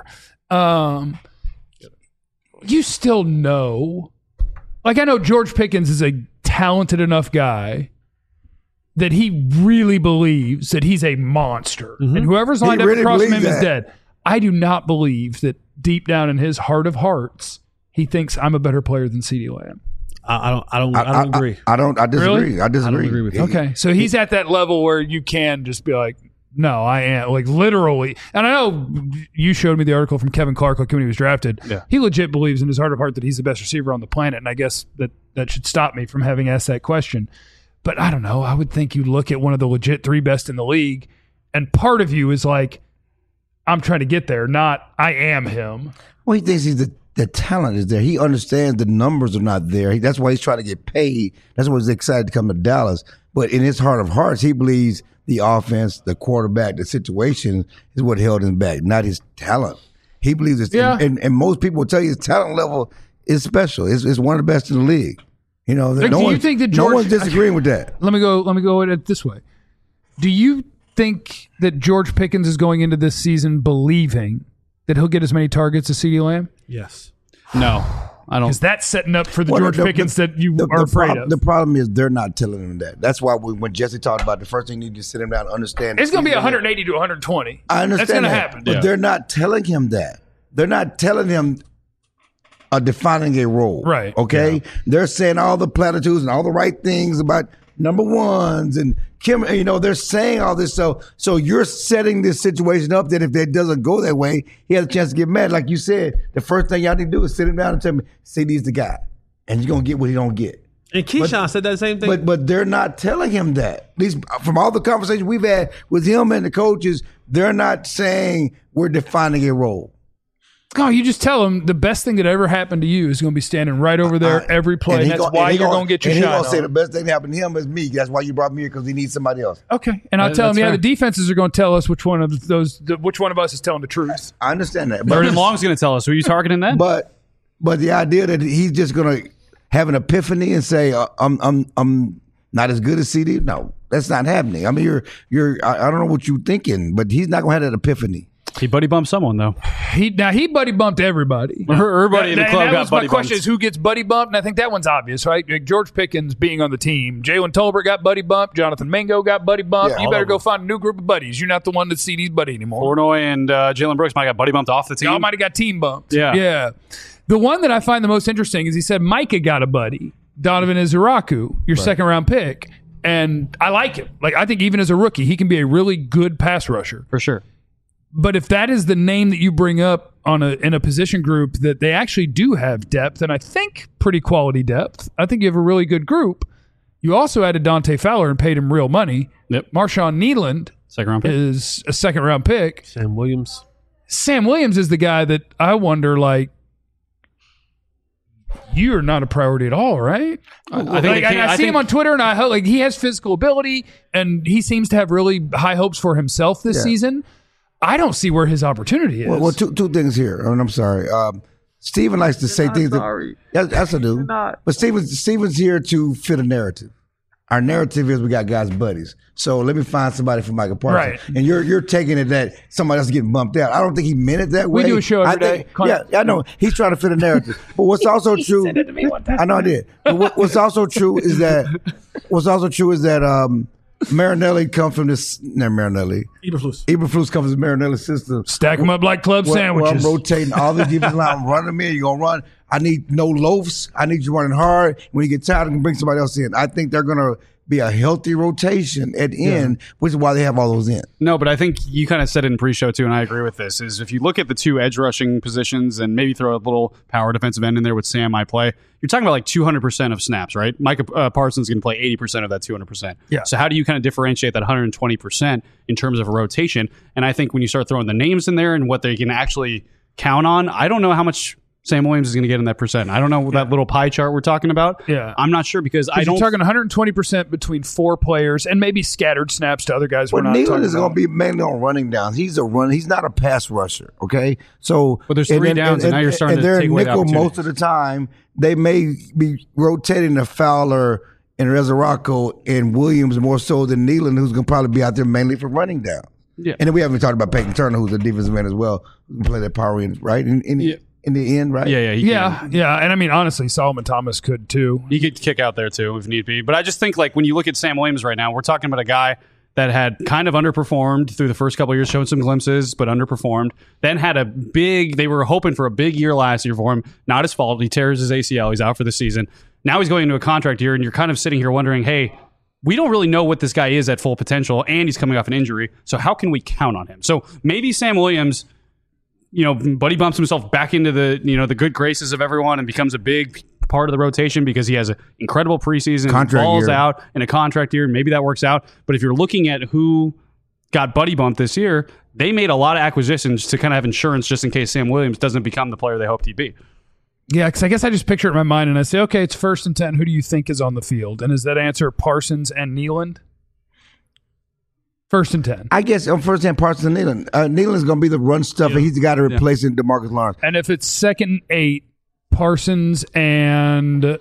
[SPEAKER 1] you still know. Like, I know George Pickens is a talented enough guy that he really believes that he's a monster. And whoever's lined up
[SPEAKER 2] really
[SPEAKER 1] across from him
[SPEAKER 2] believes
[SPEAKER 1] is
[SPEAKER 2] that.
[SPEAKER 1] dead. I do not believe that deep down in his heart of hearts, he thinks I'm a better player than CeeDee Lamb.
[SPEAKER 4] I don't agree.
[SPEAKER 2] I disagree.
[SPEAKER 1] Really?
[SPEAKER 2] I disagree.
[SPEAKER 4] I don't agree with you.
[SPEAKER 1] Okay. So he's at that level where you can just be like, no, I am, like, literally. And I know you showed me the article from Kevin Clark, like, when he was drafted.
[SPEAKER 6] Yeah.
[SPEAKER 1] He legit believes in his heart of heart that he's the best receiver on the planet. And I guess that should stop me from having asked that question. But I don't know. I would think you look at one of the legit three best in the league, and part of you is like, I'm trying to get there, not I am him.
[SPEAKER 2] Well, he thinks he's the talent is there. He understands the numbers are not there. That's why he's trying to get paid. That's why he's excited to come to Dallas. But in his heart of hearts, he believes the offense, the quarterback, the situation is what held him back, not his talent. He believes it's and most people will tell you his talent level is special. It's one of the best in the league. You know,
[SPEAKER 1] do you think that
[SPEAKER 2] no one's disagreeing with that.
[SPEAKER 1] Let me go at it this way. Do you think that George Pickens is going into this season believing that he'll get as many targets as CeeDee Lamb?
[SPEAKER 4] Yes.
[SPEAKER 6] No, I don't.
[SPEAKER 1] Because that's setting up for the George Pickens that you are afraid of.
[SPEAKER 2] The problem is they're not telling him that. That's why when Jesse talked about the first thing you need to sit him down and understand.
[SPEAKER 1] It's going to be 180 to 120.
[SPEAKER 2] I understand
[SPEAKER 1] that's going to happen.
[SPEAKER 2] But they're not telling him that. They're not telling him defining a role.
[SPEAKER 1] Right.
[SPEAKER 2] Okay?
[SPEAKER 1] Yeah.
[SPEAKER 2] They're saying all the platitudes and all the right things about number ones and Kim, you know, they're saying all this. So you're setting this situation up that if it doesn't go that way, he has a chance to get mad. Like you said, the first thing y'all need to do is sit him down and tell me, CD's the guy. And you're going to get what he don't get.
[SPEAKER 4] And Keyshawn said that same thing.
[SPEAKER 2] But they're not telling him that. At least from all the conversations we've had with him and the coaches, they're not saying we're defining a role.
[SPEAKER 1] Oh, you just tell him the best thing that ever happened to you is going to be standing right over there every play. And that's why you're going to get your shot.
[SPEAKER 2] And he's going to say the best thing that happened to him is me. That's why you brought me here, because he needs somebody else.
[SPEAKER 1] Okay. And I'll tell him, the defenses are going to tell us which one of us is telling the truth.
[SPEAKER 2] I understand that.
[SPEAKER 6] Vernon Long's going to tell us. Who are you targeting then?
[SPEAKER 2] But the idea that he's just going to have an epiphany and say, I'm not as good as CD, no, that's not happening. I mean, I don't know what you're thinking, but he's not going to have that epiphany.
[SPEAKER 6] He buddy bumped someone though.
[SPEAKER 1] He buddy bumped everybody.
[SPEAKER 6] Everybody in the club got buddy bumped.
[SPEAKER 1] My question is, who gets buddy bumped? And I think that one's obvious, right? Like George Pickens being on the team, Jalen Tolbert got buddy bumped, Jonathan Mingo got buddy bumped.
[SPEAKER 2] Yeah,
[SPEAKER 1] you better go find a new group of buddies. You're not the one that's CD's buddy anymore.
[SPEAKER 6] Portnoy and Jalen Brooks might have got buddy bumped off the team.
[SPEAKER 1] Y'all might have got team bumped.
[SPEAKER 6] Yeah.
[SPEAKER 1] The one that I find the most interesting is he said Micah got a buddy, Donovan Izuraku, your second round pick, and I like him. Like I think even as a rookie, he can be a really good pass rusher
[SPEAKER 6] for sure.
[SPEAKER 1] But if that is the name that you bring up in a position group that they actually do have depth, and I think pretty quality depth, I think you have a really good group. You also added Dante Fowler and paid him real money.
[SPEAKER 6] Yep.
[SPEAKER 1] Marshawn Kneeland is a second-round pick.
[SPEAKER 4] Sam Williams
[SPEAKER 1] is the guy that I wonder, like, you're not a priority at all, right? I see him on Twitter, and I hope he has physical ability, and he seems to have really high hopes for himself this season. I don't see where his opportunity is.
[SPEAKER 2] Well, two things here. I'm sorry. Steven likes to say things. Yes, I do. But Steven's here to fit a narrative. Our narrative is we got guys buddies. So let me find somebody for Micah Parsons.
[SPEAKER 1] Right.
[SPEAKER 2] And you're taking it that somebody else is getting bumped out. I don't think he meant it that way.
[SPEAKER 1] We do a show every day.
[SPEAKER 2] Yeah, I know. He's trying to fit a narrative. But what's also true.
[SPEAKER 1] He said it to me one time.
[SPEAKER 2] I know I did. But what's also true is that Marinelli comes from this. Not Marinelli. Eberflus comes from Marinelli's system.
[SPEAKER 1] Stack them up like club sandwiches.
[SPEAKER 2] I'm rotating all the defensive line. I'm running them in. You're going to run. I need no loafs. I need you running hard. When you get tired, I can bring somebody else in. I think they're going to be a healthy rotation at the end, which is why they have all those in.
[SPEAKER 6] No, but I think you kind of said it in pre-show too, and I agree with this, is if you look at the two edge rushing positions and maybe throw a little power defensive end in there with Sam I play, you're talking about like 200% of snaps, right? Micah Parsons can play 80% of that 200%.
[SPEAKER 1] Yeah.
[SPEAKER 6] So how do you kind of differentiate that 120% in terms of a rotation? And I think when you start throwing the names in there and what they can actually count on, I don't know how much Sam Williams is going to get in that percent. I don't know that little pie chart we're talking about.
[SPEAKER 1] Yeah.
[SPEAKER 6] I'm not sure because I don't.
[SPEAKER 1] You're talking 120% between four players and maybe scattered snaps to other guys.
[SPEAKER 2] Well, Kneeland is going to be mainly on running downs. He's a runner. He's not a pass rusher. Okay, so
[SPEAKER 6] but there's three downs, and now you're starting to take away the opportunity.
[SPEAKER 2] Most of the time, they may be rotating the Fowler and Resurrecto and Williams more so than Kneeland, who's going to probably be out there mainly for running down.
[SPEAKER 6] Yeah,
[SPEAKER 2] and then we haven't talked about Peyton Turner, who's a defensive man as well, who can play that power end, right? In the end, right?
[SPEAKER 6] Yeah.
[SPEAKER 1] And I mean, honestly, Solomon Thomas could too.
[SPEAKER 6] He could kick out there too if need be. But I just think like when you look at Sam Williams right now, we're talking about a guy that had kind of underperformed through the first couple of years, showed some glimpses, but underperformed. Then had they were hoping for a big year last year for him. Not his fault. He tears his ACL. He's out for the season. Now he's going into a contract year, and you're kind of sitting here wondering, hey, we don't really know what this guy is at full potential, and he's coming off an injury. So how can we count on him? So maybe Sam Williams, buddy bumps himself back into the good graces of everyone and becomes a big part of the rotation because he has an incredible preseason, falls out in a contract year. Maybe that works out. But if you're looking at who got buddy bumped this year, they made a lot of acquisitions to kind of have insurance just in case Sam Williams doesn't become the player they hoped he'd be.
[SPEAKER 1] Yeah, because I guess I just picture it in my mind and I say, okay, it's 1st and 10. Who do you think is on the field? And is that answer Parsons and Nealand? 1st and 10.
[SPEAKER 2] I guess on 1st and Parsons and Nealand. Nealand's going to be the run stuff, and he's got to replace DeMarcus Lawrence.
[SPEAKER 1] And if it's 2nd and 8, Parsons and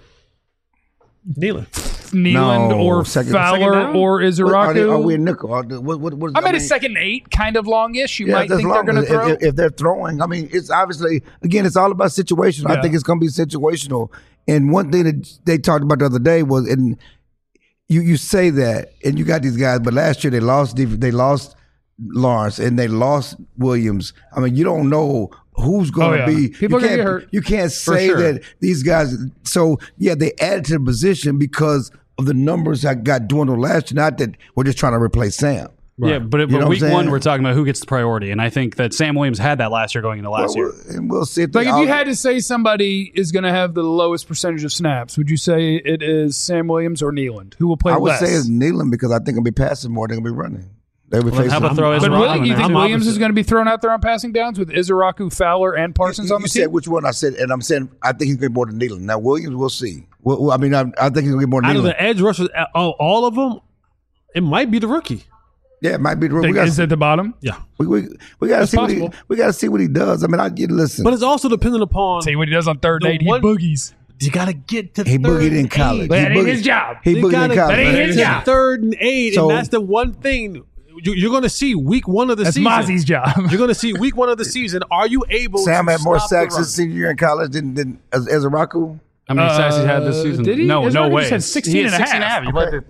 [SPEAKER 1] Nealand or Fowler or Izaraku.
[SPEAKER 2] Are we in nickel? What is,
[SPEAKER 1] I mean, a 2nd and 8, kind of longish. You might think they're going to throw.
[SPEAKER 2] If they're throwing, I mean, it's obviously, again, it's all about situational. I think it's going to be situational. And one thing that they talked about the other day was, and you say that, and you got these guys, but last year they lost Lawrence and they lost Williams. I mean, you don't know who's going to be.
[SPEAKER 1] People are going to get hurt.
[SPEAKER 2] You can't say that these guys. So, they added to the position because of the numbers that got dwindled last year. Not that we're just trying to replace Sam.
[SPEAKER 6] Right. Yeah, but week 1, we're talking about who gets the priority. And I think that Sam Williams had that last year going into last year.
[SPEAKER 2] And we'll see.
[SPEAKER 1] If you had to say somebody is going to have the lowest percentage of snaps, would you say it is Sam Williams or Nealand? Who will play less?
[SPEAKER 2] I would say it's Nealand because I think he'll be passing more than he'll be running. How
[SPEAKER 6] about throw
[SPEAKER 1] Izaraku? You think Williams is going to be thrown out there on passing downs with Izaraku, Fowler, and Parsons on the team?
[SPEAKER 2] You said which one? I said, and I'm saying I think he's going to get more than Nealand. Now Williams, we'll see. I think he's going to get more than Nealand.
[SPEAKER 4] Out of the edge rushers, all of them, it might be the rookie.
[SPEAKER 2] Yeah, it might be the rookie.
[SPEAKER 1] Is at the bottom?
[SPEAKER 4] Yeah,
[SPEAKER 2] we got to see we got to see what he does. I mean, listen,
[SPEAKER 4] but it's also dependent upon
[SPEAKER 1] see what he does on 3rd and 8. He boogies.
[SPEAKER 4] You got to get to.
[SPEAKER 2] He boogied in college.
[SPEAKER 1] That ain't his job.
[SPEAKER 2] He boogied in college.
[SPEAKER 1] That ain't his job.
[SPEAKER 4] 3rd and 8, and that's the one thing. You're going to see week 1 of the season.
[SPEAKER 1] That's Mozzie's job.
[SPEAKER 4] You're going to see week 1 of the season. Are you able
[SPEAKER 2] Sam
[SPEAKER 4] to
[SPEAKER 2] had more
[SPEAKER 4] stop
[SPEAKER 2] sacks his senior year in college than Izaraku?
[SPEAKER 6] How many sacks he had this season?
[SPEAKER 1] Did he?
[SPEAKER 6] No way.
[SPEAKER 1] He had 16 and a half.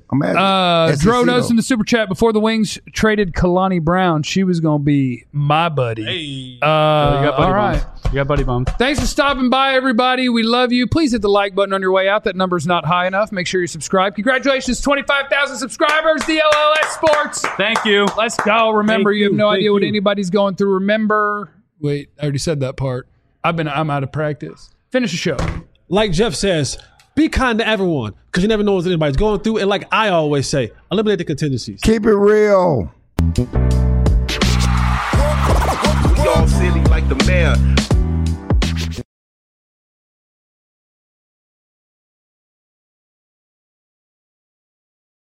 [SPEAKER 2] Dro
[SPEAKER 1] knows in the super chat, before the Wings traded Kalani Brown, she was going to be my buddy.
[SPEAKER 6] Hey. All right. You got buddy bummed.
[SPEAKER 1] Thanks for stopping by, everybody. We love you. Please hit the like button on your way out. That number's not high enough. Make sure you subscribe. Congratulations, 25,000 subscribers, DLLS Sports.
[SPEAKER 6] Thank you.
[SPEAKER 1] Let's go. Remember, you have no idea what anybody's going through. Remember, wait, I already said that part. I'm out of practice. Finish the show. Like Jeff says, be kind to everyone because you never know what anybody's going through. And like I always say, eliminate the contingencies.
[SPEAKER 2] Keep it real.
[SPEAKER 8] We all silly like the mayor.